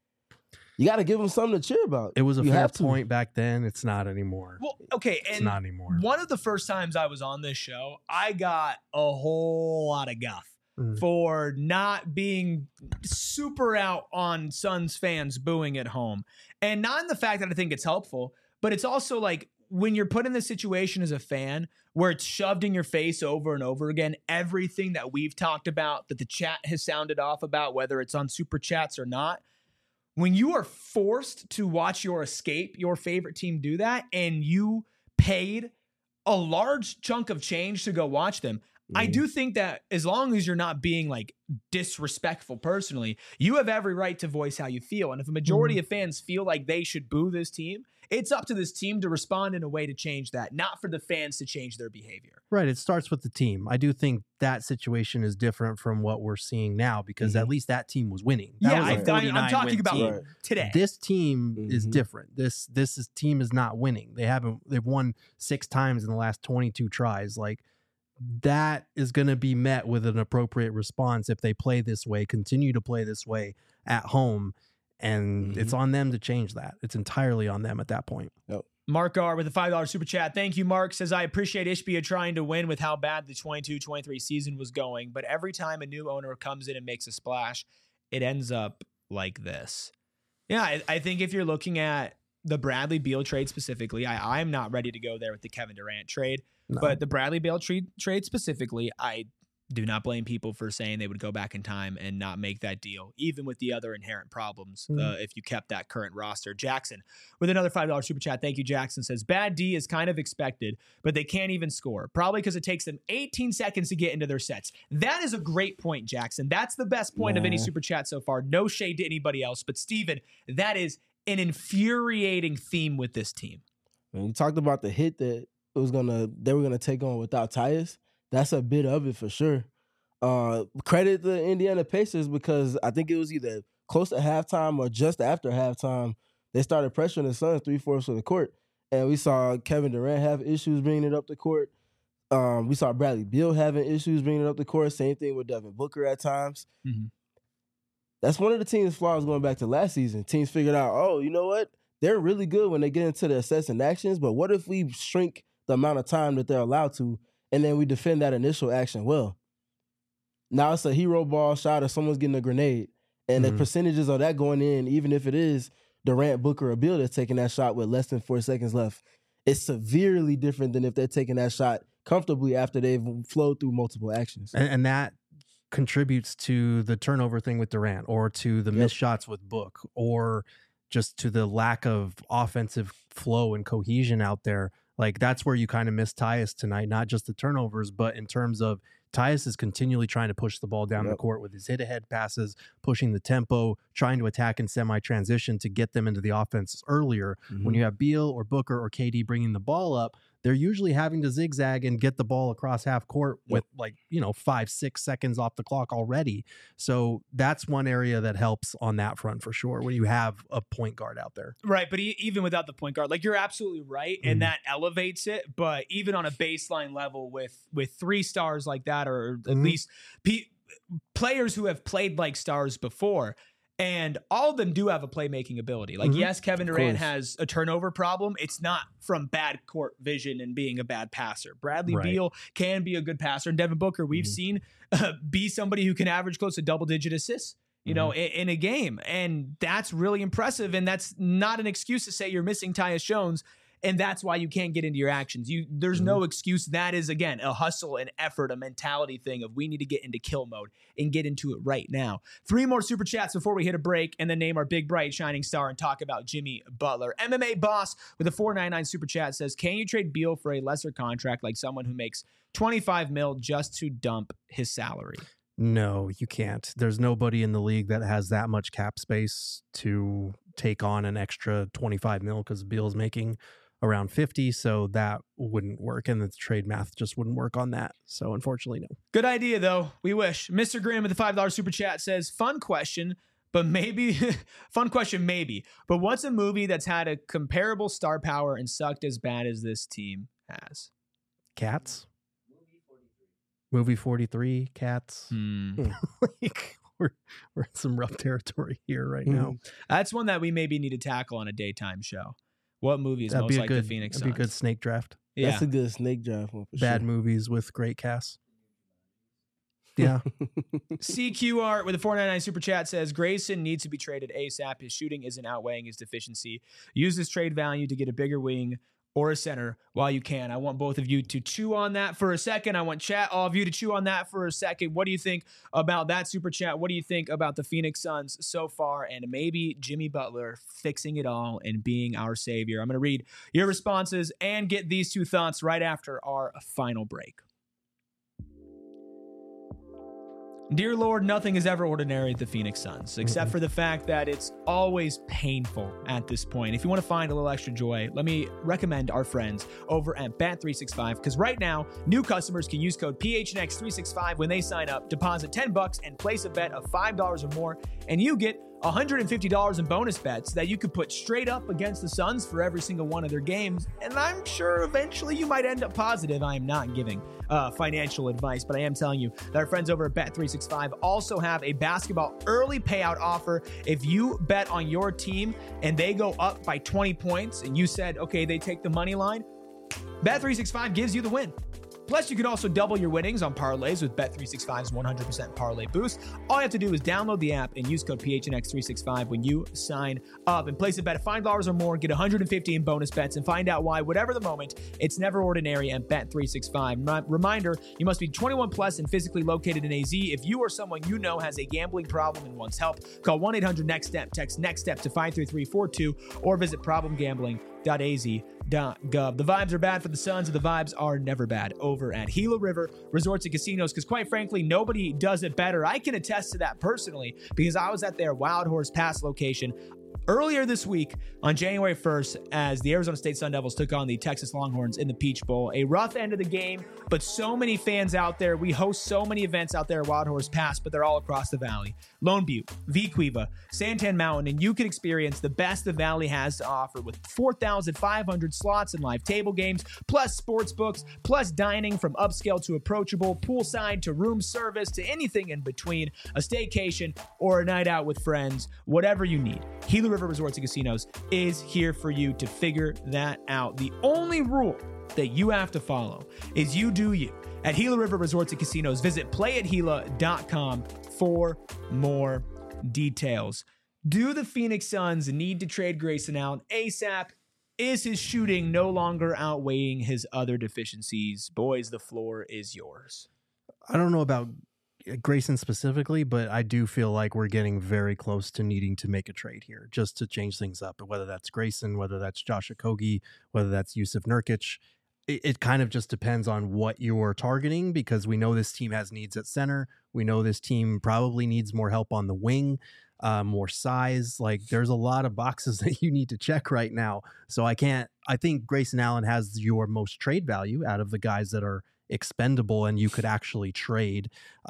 you got to give him something to cheer about. It was a fair point back then. It's not anymore. Well, okay. It's and not anymore. One of the first times I was on this show, I got a whole lot of guff for not being super out on Suns fans booing at home. And not in the fact that I think it's helpful, but it's also like when you're put in this situation as a fan where it's shoved in your face over and over again, everything that we've talked about, that the chat has sounded off about, whether it's on super chats or not, when you are forced to watch your favorite team do that, and you paid a large chunk of change to go watch them, I do think that as long as you're not being like disrespectful personally, you have every right to voice how you feel. And if a majority of fans feel like they should boo this team, it's up to this team to respond in a way to change that, not for the fans to change their behavior. Right. It starts with the team. I do think that situation is different from what we're seeing now, because at least that team was winning. That was a I'm talking about today. This team is different. This team is not winning. They've won 6 times in the last 22 tries. Like, that is going to be met with an appropriate response if they play this way, continue to play this way at home. And it's on them to change that. It's entirely on them at that point. Yep. Mark R with a $5 super chat. Thank you, Mark. Says, I appreciate Ishbia trying to win with how bad the 22-23 season was going, but every time a new owner comes in and makes a splash, it ends up like this. Yeah, I think if you're looking at the Bradley Beal trade specifically, I'm not ready to go there with the Kevin Durant trade. No. But the Bradley Beal trade specifically, I do not blame people for saying they would go back in time and not make that deal, even with the other inherent problems, if you kept that current roster. Jackson with another $5 super chat. Thank you, Jackson. Says, bad D is kind of expected, but they can't even score. Probably because it takes them 18 seconds to get into their sets. That is a great point, Jackson. That's the best point of any super chat so far. No shade to anybody else. But, Steven, that is an infuriating theme with this team. When you talked about the hit that they were gonna take on without Tyus, that's a bit of it for sure. Credit the Indiana Pacers, because I think it was either close to halftime or just after halftime, they started pressuring the Suns 3/4 of the court. And we saw Kevin Durant have issues bringing it up the court. We saw Bradley Beal having issues bringing it up the court. Same thing with Devin Booker at times. That's one of the team's flaws going back to last season. Teams figured out, oh, you know what? They're really good when they get into the sets and actions, but what if we shrink the amount of time that they're allowed to, and then we defend that initial action well? Now it's a hero ball shot or someone's getting a grenade, and the percentages of that going in, even if it is Durant, Booker, or Beal that's taking that shot with less than 4 seconds left, it's severely different than if they're taking that shot comfortably after they've flowed through multiple actions. And that contributes to the turnover thing with Durant, or to the missed shots with Book, or just to the lack of offensive flow and cohesion out there. Like, that's where you kind of miss Tyus tonight, not just the turnovers, but in terms of Tyus is continually trying to push the ball down the court with his hit-ahead passes, pushing the tempo, trying to attack in semi-transition to get them into the offense earlier. When you have Beal or Booker or KD bringing the ball up, they're usually having to zigzag and get the ball across half court with 5-6 seconds off the clock already. So that's one area that helps on that front for sure, when you have a point guard out there. Right, but even without the point guard, like, you're absolutely right, and that elevates it. But even on a baseline level with 3 stars like that, or at least players who have played like stars before, and all of them do have a playmaking ability. Like, yes, Kevin Durant has a turnover problem. It's not from bad court vision and being a bad passer. Bradley Beal can be a good passer. And Devin Booker, we've seen be somebody who can average close to double-digit assists, in a game. And that's really impressive. And that's not an excuse to say you're missing Tyus Jones. and that's why you can't get into your actions. There's no excuse. That is, again, a hustle and effort, a mentality thing of we need to get into kill mode and get into it right now. 3 more super chats before we hit a break and then name our big, bright, shining star and talk about Jimmy Butler. MMA Boss with a $4.99 super chat says, can you trade Beal for a lesser contract like someone who makes $25 million just to dump his salary? No, you can't. There's nobody in the league that has that much cap space to take on an extra 25 mil because Beal's making around 50, so that wouldn't work, and the trade math just wouldn't work on that. So unfortunately, no. Good idea, though. We wish. Mr. Graham with the $5 super chat says, fun question, but maybe, fun question maybe, but what's a movie that's had a comparable star power and sucked as bad as this team has? Cats? Movie 43, Cats. Like, we're in some rough territory here right now. That's one that we maybe need to tackle on a daytime show. What movie is most like the Phoenix Suns? That'd be a good snake draft. Yeah. That's a good snake draft one for Bad sure. movies with great casts. Yeah. CQ Art with a $4.99 super chat says, Grayson needs to be traded ASAP. His shooting isn't outweighing his deficiency. Use this trade value to get a bigger wing or a center while you can. I want both of you to chew on that for a second. I want all of you to chew on that for a second. What do you think about that super chat? What do you think about the Phoenix Suns so far and maybe Jimmy Butler fixing it all and being our savior? I'm going to read your responses and get these 2 thoughts right after our final break. Dear Lord, nothing is ever ordinary at the Phoenix Suns, except for the fact that it's always painful at this point. If you want to find a little extra joy, let me recommend our friends over at Bet365, because right now, new customers can use code PHNX365 when they sign up, deposit $10 and place a bet of $5 or more, and you get $150 in bonus bets that you could put straight up against the Suns for every single one of their games. And I'm sure eventually you might end up positive. I am not giving financial advice, but I am telling you that our friends over at Bet365 also have a basketball early payout offer. If you bet on your team and they go up by 20 points and you said, okay, they take the money line, Bet365 gives you the win. Plus, you can also double your winnings on parlays with Bet365's 100% parlay boost. All you have to do is download the app and use code PHNX365 when you sign up and place a bet of $5 or more, get $150 in bonus bets, and find out why, whatever the moment, it's never ordinary at Bet365. Reminder, you must be 21 plus and physically located in AZ. If you or someone you know has a gambling problem and wants help, call 1-800-NEXT-STEP, text NEXT-STEP to 53342, or visit problemgambling.az.gov. The vibes are bad for the Suns, and the vibes are never bad over at Gila River Resorts and Casinos, because quite frankly, nobody does it better. I can attest to that personally because I was at their Wild Horse Pass location earlier this week on January 1st as the Arizona State Sun Devils took on the Texas Longhorns in the Peach Bowl. A rough end of the game, but so many fans out there. We host so many events out there at Wild Horse Pass, but they're all across the valley. Lone Butte, Vequiva, Santan Mountain, and you can experience the best the valley has to offer with 4,500 slots and live table games, plus sports books, plus dining from upscale to approachable, poolside to room service to anything in between, a staycation or a night out with friends, whatever you need. Gila River Resorts and Casinos is here for you to figure that out. The only rule that you have to follow is you do you. At Gila River Resorts and Casinos, visit playatgila.com for more details. Do the Phoenix Suns need to trade Grayson Allen ASAP? Is his shooting no longer outweighing his other deficiencies? Boys, the floor is yours. I don't know about Grayson specifically, but I do feel like we're getting very close to needing to make a trade here just to change things up. Whether that's Grayson, whether that's Josh Okogie, whether that's Yusuf Nurkic, it kind of just depends on what you're targeting, because we know this team has needs at center. We know this team probably needs more help on the wing, more size. Like, there's a lot of boxes that you need to check right now. So I think Grayson Allen has your most trade value out of the guys that are expendable and you could actually trade.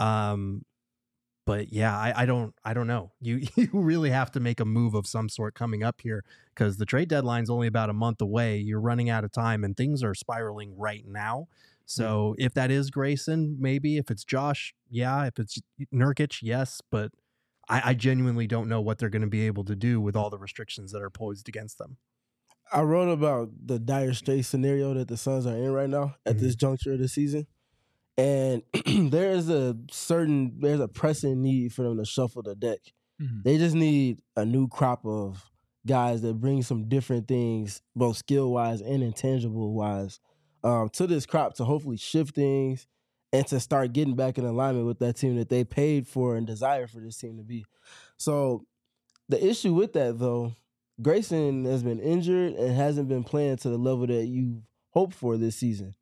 But yeah, I don't know. You really have to make a move of some sort coming up here, because the trade deadline's only about a month away. You're running out of time and things are spiraling right now. So if that is Grayson, maybe. If it's Josh, yeah. If it's Nurkic, yes. But I genuinely don't know what they're going to be able to do with all the restrictions that are posed against them. I wrote about the dire straits scenario that the Suns are in right now at this juncture of the season. And there's a pressing need for them to shuffle the deck. They just need a new crop of guys that bring some different things, both skill-wise and intangible-wise, to this crop to hopefully shift things and to start getting back in alignment with that team that they paid for and desire for this team to be. So the issue with that, though, Grayson has been injured and hasn't been playing to the level that you hoped for this season.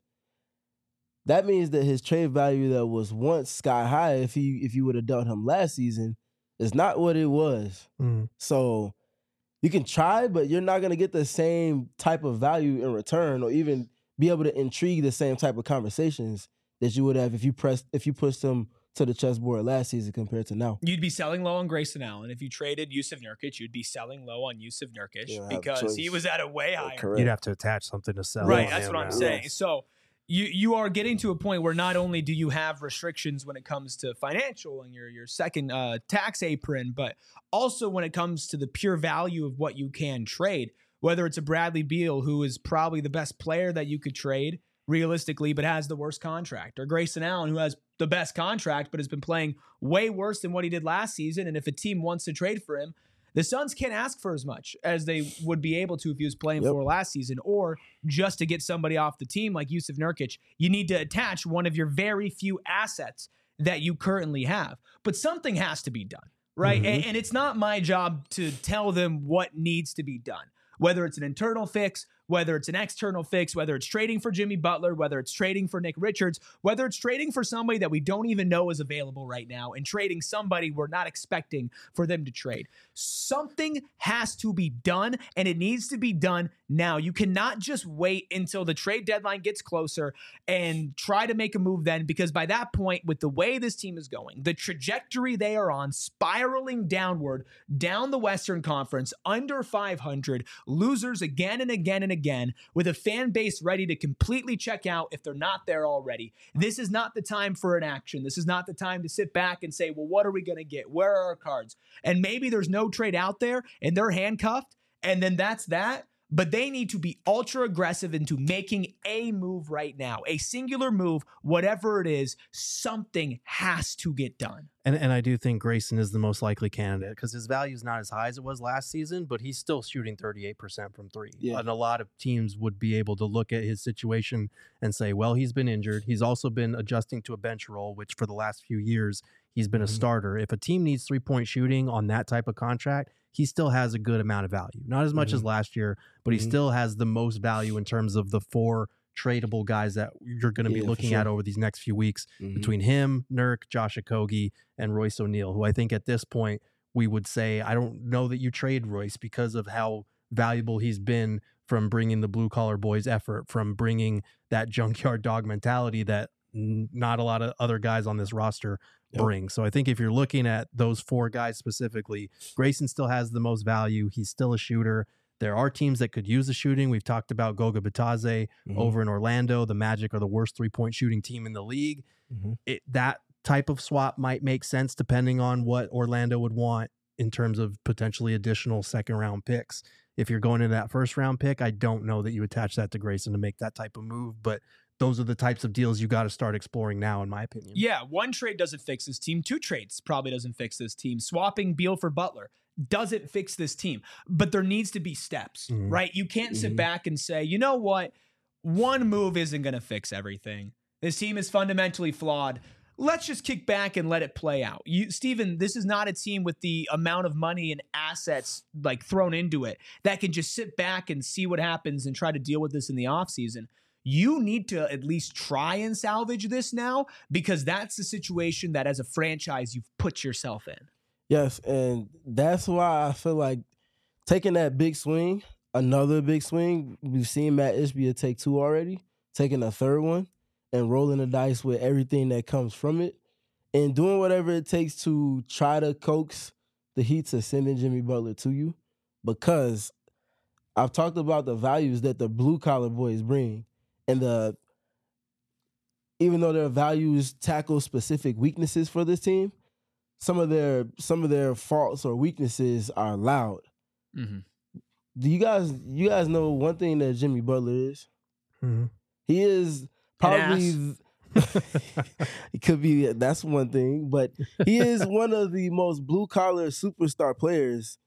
That means that his trade value that was once sky high, if you would have dealt him last season, is not what it was. So you can try, but you're not going to get the same type of value in return, or even be able to intrigue the same type of conversations that you would have if you pushed him to the chessboard last season compared to now. You'd be selling low on Grayson Allen. If you traded Jusuf Nurkic, you'd be selling low on Jusuf Nurkic because he was at a way higher. Correct. You'd have to attach something to sell. Right, that's what I'm saying. Yes. So you are getting to a point where not only do you have restrictions when it comes to financial and your second tax apron, but also when it comes to the pure value of what you can trade, whether it's a Bradley Beal, who is probably the best player that you could trade realistically, but has the worst contract, or Grayson Allen, who has the best contract, but has been playing way worse than what he did last season. And if a team wants to trade for him, the Suns can't ask for as much as they would be able to if he was playing for last season, or just to get somebody off the team like Jusuf Nurkic, you need to attach one of your very few assets that you currently have. But something has to be done, right? And it's not my job to tell them what needs to be done, whether it's an internal fix, whether it's an external fix, whether it's trading for Jimmy Butler, whether it's trading for Nick Richards, whether it's trading for somebody that we don't even know is available right now, and trading somebody we're not expecting for them to trade. Something has to be done, and it needs to be done now. You cannot just wait until the trade deadline gets closer and try to make a move then, because by that point, with the way this team is going, the trajectory they are on, spiraling downward, down the Western Conference, under 500, losers again and again and again, with a fan base ready to completely check out if they're not there already. This is not the time for an action. This is not the time to sit back and say, well, what are we going to get? Where are our cards? And maybe there's no trade out there and they're handcuffed, and then that's that. But they need to be ultra aggressive into making a move right now, a singular move, whatever it is. Something has to get done. And I do think Grayson is the most likely candidate because his value is not as high as it was last season, but he's still shooting 38% from three. Yeah. And a lot of teams would be able to look at his situation and say, well, he's been injured. He's also been adjusting to a bench role, which for the last few years, he's been a starter. If a team needs 3-point shooting on that type of contract, he still has a good amount of value. Not as much as last year, but he still has the most value in terms of the 4 tradable guys that you're going to be looking at over these next few weeks between him, Nurk, Josh Okogie, and Royce O'Neal, who I think at this point we would say, I don't know that you trade Royce because of how valuable he's been from bringing the blue-collar boys effort, from bringing that junkyard dog mentality that not a lot of other guys on this roster bring. So I think if you're looking at those 4 guys specifically, Grayson still has the most value. He's still a shooter. There are teams that could use the shooting. We've talked about Goga Bitadze over in Orlando. The Magic are the worst 3-point shooting team in the league. That type of swap might make sense depending on what Orlando would want in terms of potentially additional second-round picks. If you're going into that first-round pick, I don't know that you attach that to Grayson to make that type of move, but those are the types of deals you got to start exploring now, in my opinion. Yeah, 1 trade doesn't fix this team. 2 trades probably doesn't fix this team. Swapping Beal for Butler doesn't fix this team. But there needs to be steps, right? You can't sit back and say, you know what? 1 move isn't going to fix everything. This team is fundamentally flawed. Let's just kick back and let it play out. Steven, this is not a team with the amount of money and assets like thrown into it that can just sit back and see what happens and try to deal with this in the offseason. You need to at least try and salvage this now, because that's the situation that as a franchise you've put yourself in. Yes, and that's why I feel like taking that big swing, another big swing, we've seen Matt Ishbia take 2 already, taking a 3rd one and rolling the dice with everything that comes from it and doing whatever it takes to try to coax the Heat to sending Jimmy Butler to you, because I've talked about the values that the blue-collar boys bring. And even though their values tackle specific weaknesses for this team, some of their faults or weaknesses are loud. Do you guys know one thing that Jimmy Butler is? He is probably it could be, that's one thing, but he is one of the most blue collar superstar players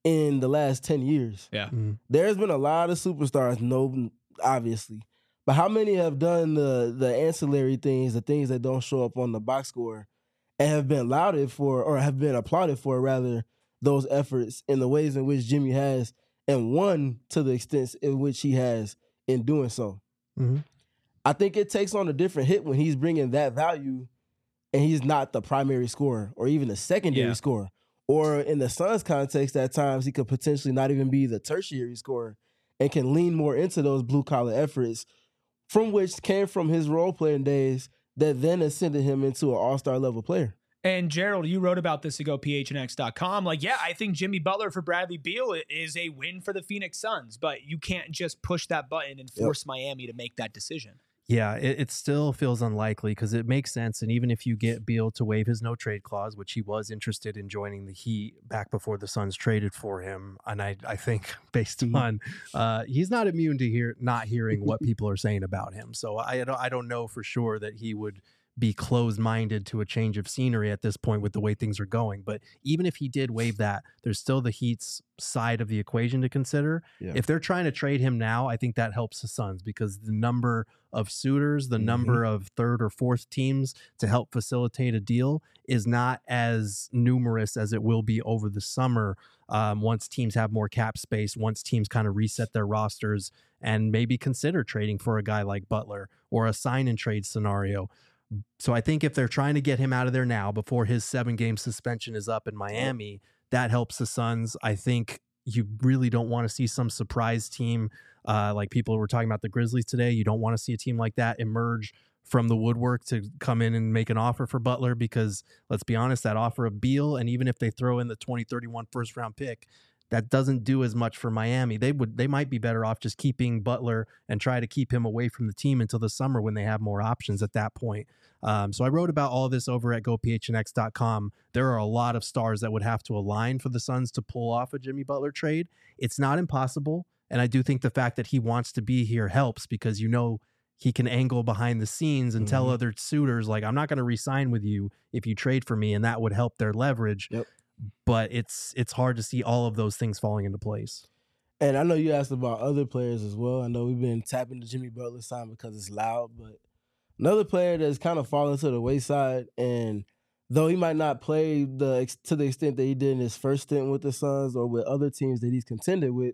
in the last 10 years. Yeah. There's been a lot of superstars, no, obviously. But how many have done the ancillary things, the things that don't show up on the box score, and have been lauded for, or have been applauded for, rather, those efforts in the ways in which Jimmy has, and won to the extent in which he has in doing so? Mm-hmm. I think it takes on a different hit when he's bringing that value and he's not the primary scorer or even the secondary scorer. Or in the Suns' context, at times he could potentially not even be the tertiary scorer and can lean more into those blue-collar efforts, from which came from his role-playing days that then ascended him into an all-star level player. And Gerald, you wrote about this to GoPHNX.com. Like, yeah, I think Jimmy Butler for Bradley Beal is a win for the Phoenix Suns, but you can't just push that button and force Miami to make that decision. Yeah, it still feels unlikely because it makes sense. And even if you get Beal to waive his no-trade clause, which he was interested in joining the Heat back before the Suns traded for him, and I think based on he's not immune to not hearing what people are saying about him. So I don't know for sure that he would be closed-minded to a change of scenery at this point with the way things are going. But even if he did waive that, there's still the Heat's side of the equation to consider. Yeah. If they're trying to trade him now, I think that helps the Suns because the number of suitors, the number of third or fourth teams to help facilitate a deal is not as numerous as it will be over the summer once teams have more cap space, once teams kind of reset their rosters and maybe consider trading for a guy like Butler or a sign-and-trade scenario. So I think if they're trying to get him out of there now before his 7-game suspension is up in Miami, that helps the Suns. I think you really don't want to see some surprise team like people were talking about the Grizzlies today. You don't want to see a team like that emerge from the woodwork to come in and make an offer for Butler because, let's be honest, that offer of Beal, and even if they throw in the 2031 first-round pick, that doesn't do as much for Miami. They might be better off just keeping Butler and try to keep him away from the team until the summer when they have more options at that point. So I wrote about all of this over at GoPHNX.com. There are a lot of stars that would have to align for the Suns to pull off a Jimmy Butler trade. It's not impossible, and I do think the fact that he wants to be here helps because he can angle behind the scenes and tell other suitors, like, I'm not going to re-sign with you if you trade for me, and that would help their leverage. Yep. But it's hard to see all of those things falling into place. And I know you asked about other players as well. I know we've been tapping the Jimmy Butler sign because it's loud, but another player that's kind of fallen to the wayside, and though he might not play to the extent that he did in his first stint with the Suns or with other teams that he's contended with,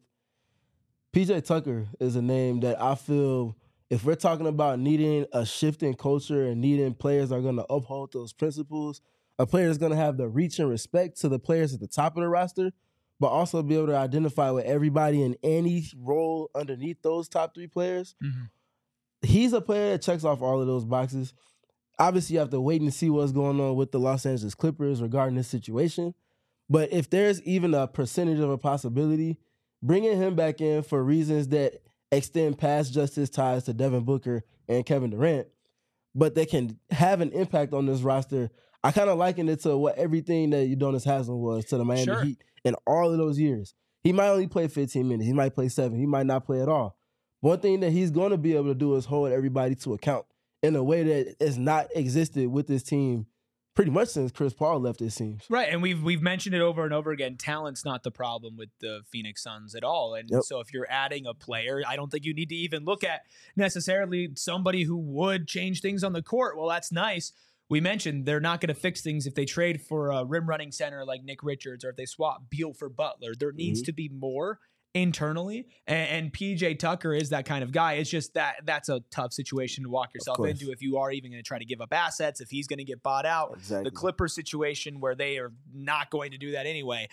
PJ Tucker is a name that I feel, if we're talking about needing a shift in culture and needing players that are going to uphold those principles, a player that's going to have the reach and respect to the players at the top of the roster, but also be able to identify with everybody in any role underneath those top 3 players. He's a player that checks off all of those boxes. Obviously, you have to wait and see what's going on with the Los Angeles Clippers regarding this situation. But if there's even a percentage of a possibility, bringing him back in for reasons that extend past just his ties to Devin Booker and Kevin Durant, but they can have an impact on this roster, I kind of liken it to what everything that Udonis Haslem was to the Miami Heat in all of those years. He might only play 15 minutes. He might play 7. He might not play at all. One thing that he's going to be able to do is hold everybody to account in a way that has not existed with this team pretty much since Chris Paul left, it seems. Right, and we've mentioned it over and over again. Talent's not the problem with the Phoenix Suns at all. And so if you're adding a player, I don't think you need to even look at necessarily somebody who would change things on the court. Well, that's nice. We mentioned they're not going to fix things if they trade for a rim-running center like Nick Richards or if they swap Beal for Butler. There needs to be more internally, and PJ Tucker is that kind of guy. It's just that's a tough situation to walk yourself into if you are even going to try to give up assets, if he's going to get bought out. Exactly. The Clippers situation where they are not going to do that anyway.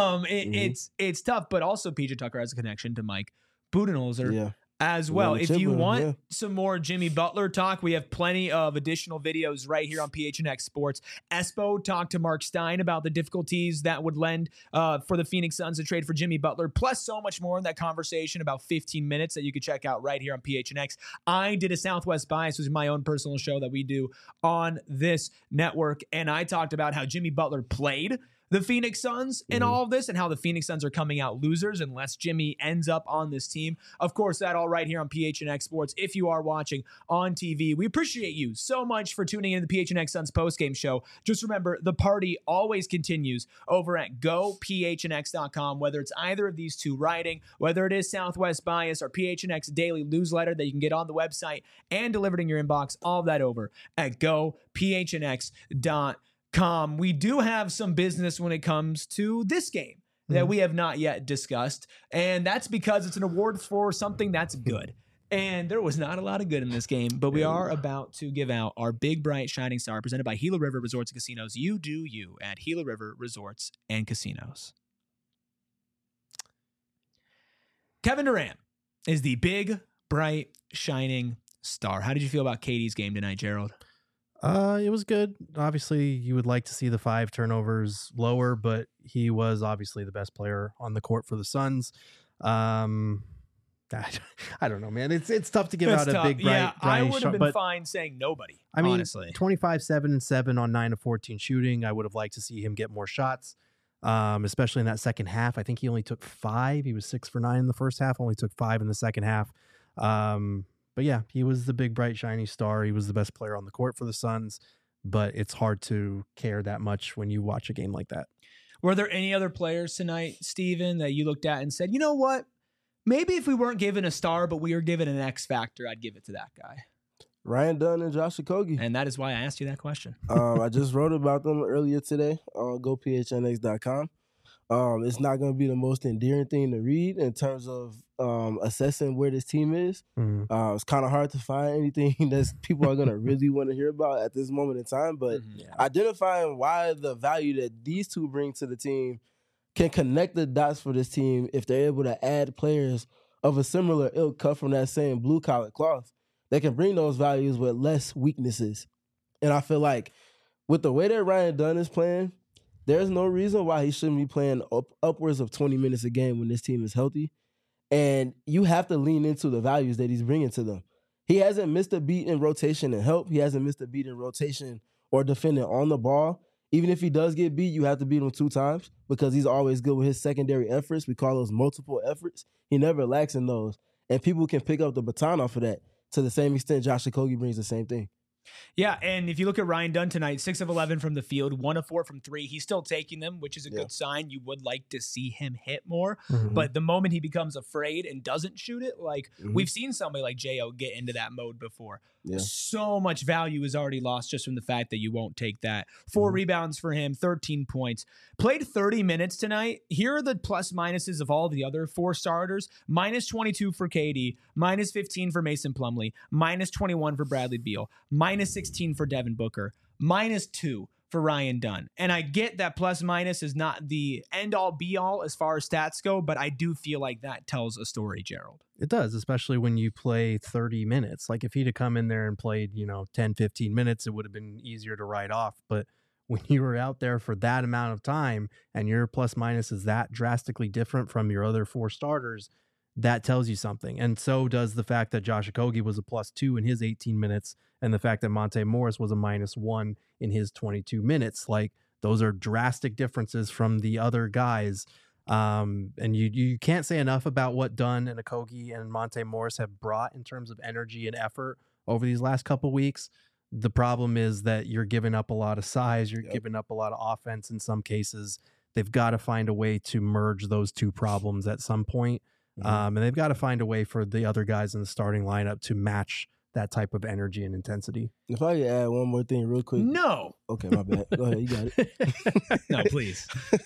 It's tough, but also PJ Tucker has a connection to Mike Budenholzer as well. If you want some more Jimmy Butler talk, we have plenty of additional videos right here on PHNX Sports. Espo talked to Mark Stein about the difficulties that would lend for the Phoenix Suns to trade for Jimmy Butler, plus so much more in that conversation, about 15 minutes that you could check out right here on PHNX. I did a Southwest Bias, which is my own personal show that we do on this network, and I talked about how Jimmy Butler played the Phoenix Suns in all of this and how the Phoenix Suns are coming out losers unless Jimmy ends up on this team. Of course, that all right here on PHNX Sports. If you are watching on TV, we appreciate you so much for tuning in to the PHNX Suns postgame show. Just remember, the party always continues over at gophnx.com, whether it's either of these two writing, whether it is Southwest Bias or PHNX Daily Newsletter that you can get on the website and delivered in your inbox, all of that over at gophnx.com. We do have some business when it comes to this game that we have not yet discussed, and that's because it's an award for something that's good. And there was not a lot of good in this game, but we are about to give out our big, bright, shining star presented by Gila River Resorts and Casinos. You do you at Gila River Resorts and Casinos. Kevin Durant is the big, bright, shining star. How did you feel about KD's game tonight, Gerald? It was good. Obviously, you would like to see the 5 turnovers lower, but he was obviously the best player on the court for the Suns. I don't know, man. It's tough to give out a big, bright, I would have shot, been fine saying nobody. I mean, honestly, 25, 7, and 7 on 9 of 14 shooting. I would have liked to see him get more shots, especially in that second half. I think he only took 5. He was 6 for 9 in the first half, only took 5 in the second half. But yeah, he was the big, bright, shiny star. He was the best player on the court for the Suns, but it's hard to care that much when you watch a game like that. Were there any other players tonight, Steven, that you looked at and said, you know what? Maybe if we weren't given a star, but we were given an X factor, I'd give it to that guy. Ryan Dunn and Josh Okogie. And that is why I asked you that question. I just wrote about them earlier today on gophnx.com. It's not going to be the most endearing thing to read in terms of assessing where this team is. It's kind of hard to find anything that people are going to really want to hear about at this moment in time. But identifying why the value that these two bring to the team can connect the dots for this team if they're able to add players of a similar ilk cut from that same blue-collar cloth. They can bring those values with less weaknesses. And I feel like with the way that Ryan Dunn is playing, there's no reason why he shouldn't be playing upwards of 20 minutes a game when this team is healthy. And you have to lean into the values that he's bringing to them. He hasn't missed a beat in rotation and help. He hasn't missed a beat in rotation or defending on the ball. Even if he does get beat, you have to beat him 2 times because he's always good with his secondary efforts. We call those multiple efforts. He never lacks in those. And people can pick up the baton off of that. To the same extent, Josh Okogie brings the same thing. Yeah, and if you look at Ryan Dunn tonight, 6 of 11 from the field, 1 of 4 from 3. He's still taking them, which is a good sign. You would like to see him hit more. But the moment he becomes afraid and doesn't shoot it, like we've seen somebody like J.O. get into that mode before. So much value is already lost just from the fact that you won't take that. 4 rebounds for him, 13 points. Played 30 minutes tonight. Here are the plus minuses of all the other 4 starters. Minus 22 for KD, minus 15 for Mason Plumlee, minus 21 for Bradley Beal, minus 16 for Devin Booker, minus 2 for Ryan Dunn. And I get that plus minus is not the end all be all as far as stats go, but I do feel like that tells a story, Gerald. It does, especially when you play 30 minutes. Like if he'd have come in there and played, 10, 15 minutes, it would have been easier to write off. But when you were out there for that amount of time and your plus minus is that drastically different from your other 4 starters, that tells you something. And so does the fact that Josh Okogie was a +2 in his 18 minutes and the fact that Monte Morris was a -1 in his 22 minutes. Like those are drastic differences from the other guys. And you can't say enough about what Dunn and Okogie and Monte Morris have brought in terms of energy and effort over these last couple weeks. The problem is that you're giving up a lot of size. You're giving up a lot of offense in some cases. They've got to find a way to merge those 2 problems at some point. And they've got to find a way for the other guys in the starting lineup to match that type of energy and intensity. If I could add one more thing real quick. No. Okay, my bad. Go ahead. You got it. No, please.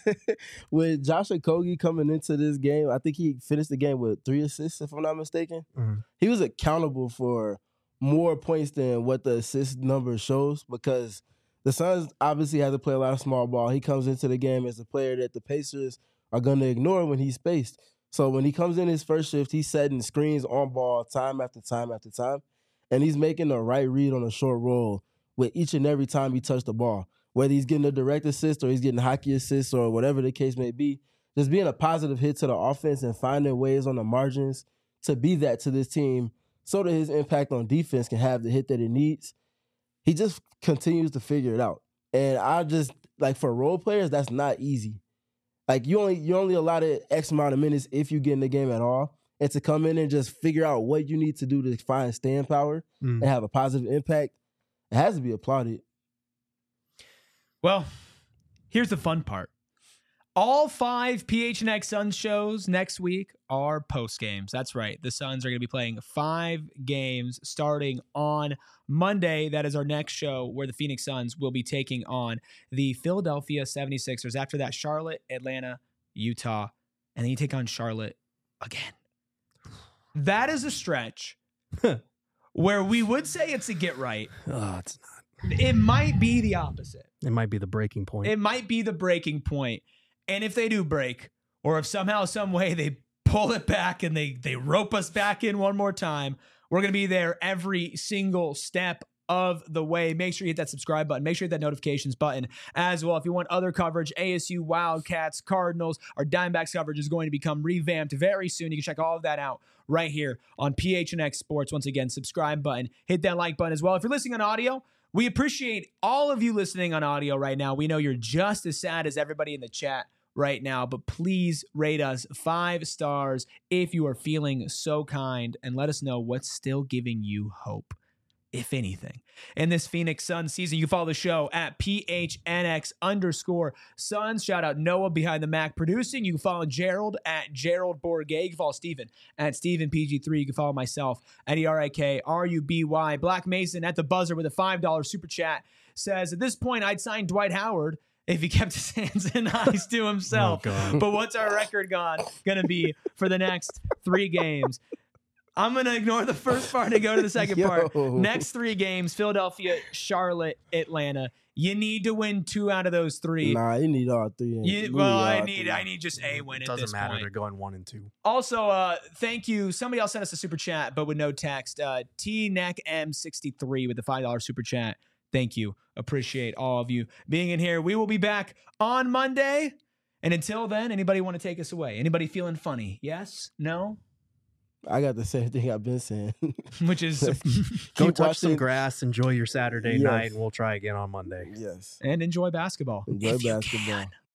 With Josh Okogie coming into this game, I think he finished the game with 3 assists, if I'm not mistaken. He was accountable for more points than what the assist number shows because the Suns obviously have to play a lot of small ball. He comes into the game as a player that the Pacers are going to ignore when he's spaced. So when he comes in his first shift, he's setting screens on ball time after time after time. And he's making the right read on a short roll with each and every time he touched the ball. Whether he's getting a direct assist or he's getting hockey assists or whatever the case may be, just being a positive hit to the offense and finding ways on the margins to be that to this team so that his impact on defense can have the hit that it needs. He just continues to figure it out. And I just like for role players, that's not easy. Like you're only allotted X amount of minutes if you get in the game at all. And to come in and just figure out what you need to do to find staying power and have a positive impact, it has to be applauded. Well, here's the fun part. All 5 PHNX Suns shows next week are post games. That's right. The Suns are going to be playing 5 games starting on Monday. That is our next show where the Phoenix Suns will be taking on the Philadelphia 76ers. After that, Charlotte, Atlanta, Utah, and then you take on Charlotte again. That is a stretch where we would say it's a get right. Oh, it's not. It might be the opposite. It might be the breaking point. It might be the breaking point. And if they do break, or if somehow, some way they pull it back and they rope us back in one more time, we're going to be there every single step of the way. Make sure you hit that subscribe button. Make sure you hit that notifications button as well. If you want other coverage, ASU, Wildcats, Cardinals, our Diamondbacks coverage is going to become revamped very soon. You can check all of that out right here on PHNX Sports. Once again, subscribe button. Hit that like button as well. If you're listening on audio, we appreciate all of you listening on audio right now. We know you're just as sad as everybody in the chat right now, but please rate us 5 stars if you are feeling so kind, and let us know what's still giving you hope, if anything, in this Phoenix Suns season. You can follow the show at PHNX_Suns. Shout out Noah behind the Mac producing. You can follow Gerald at Gerald Bourget. You can follow Steven at StevenPG3. You can follow myself at ERIKRUBY. Black Mason at the buzzer with a $5 super chat says, at this point, I'd sign Dwight Howard if he kept his hands and eyes to himself. But what's our record going to be for the next 3 games? I'm going to ignore the first part and go to the second part. Next 3 games, Philadelphia, Charlotte, Atlanta. You need to win 2 out of those 3. Nah, you need all 3. I need just a win at this point. Doesn't matter. They're going 1 and 2. Also, thank you. Somebody else sent us a super chat, but with no text. TNECM63 with the $5 super chat. Thank you. Appreciate all of you being in here. We will be back on Monday. And until then, anybody want to take us away? Anybody feeling funny? Yes? No? I got the same thing I've been saying. Which is go touch some grass, enjoy your Saturday night, and we'll try again on Monday. Yes. And enjoy basketball. Enjoy basketball.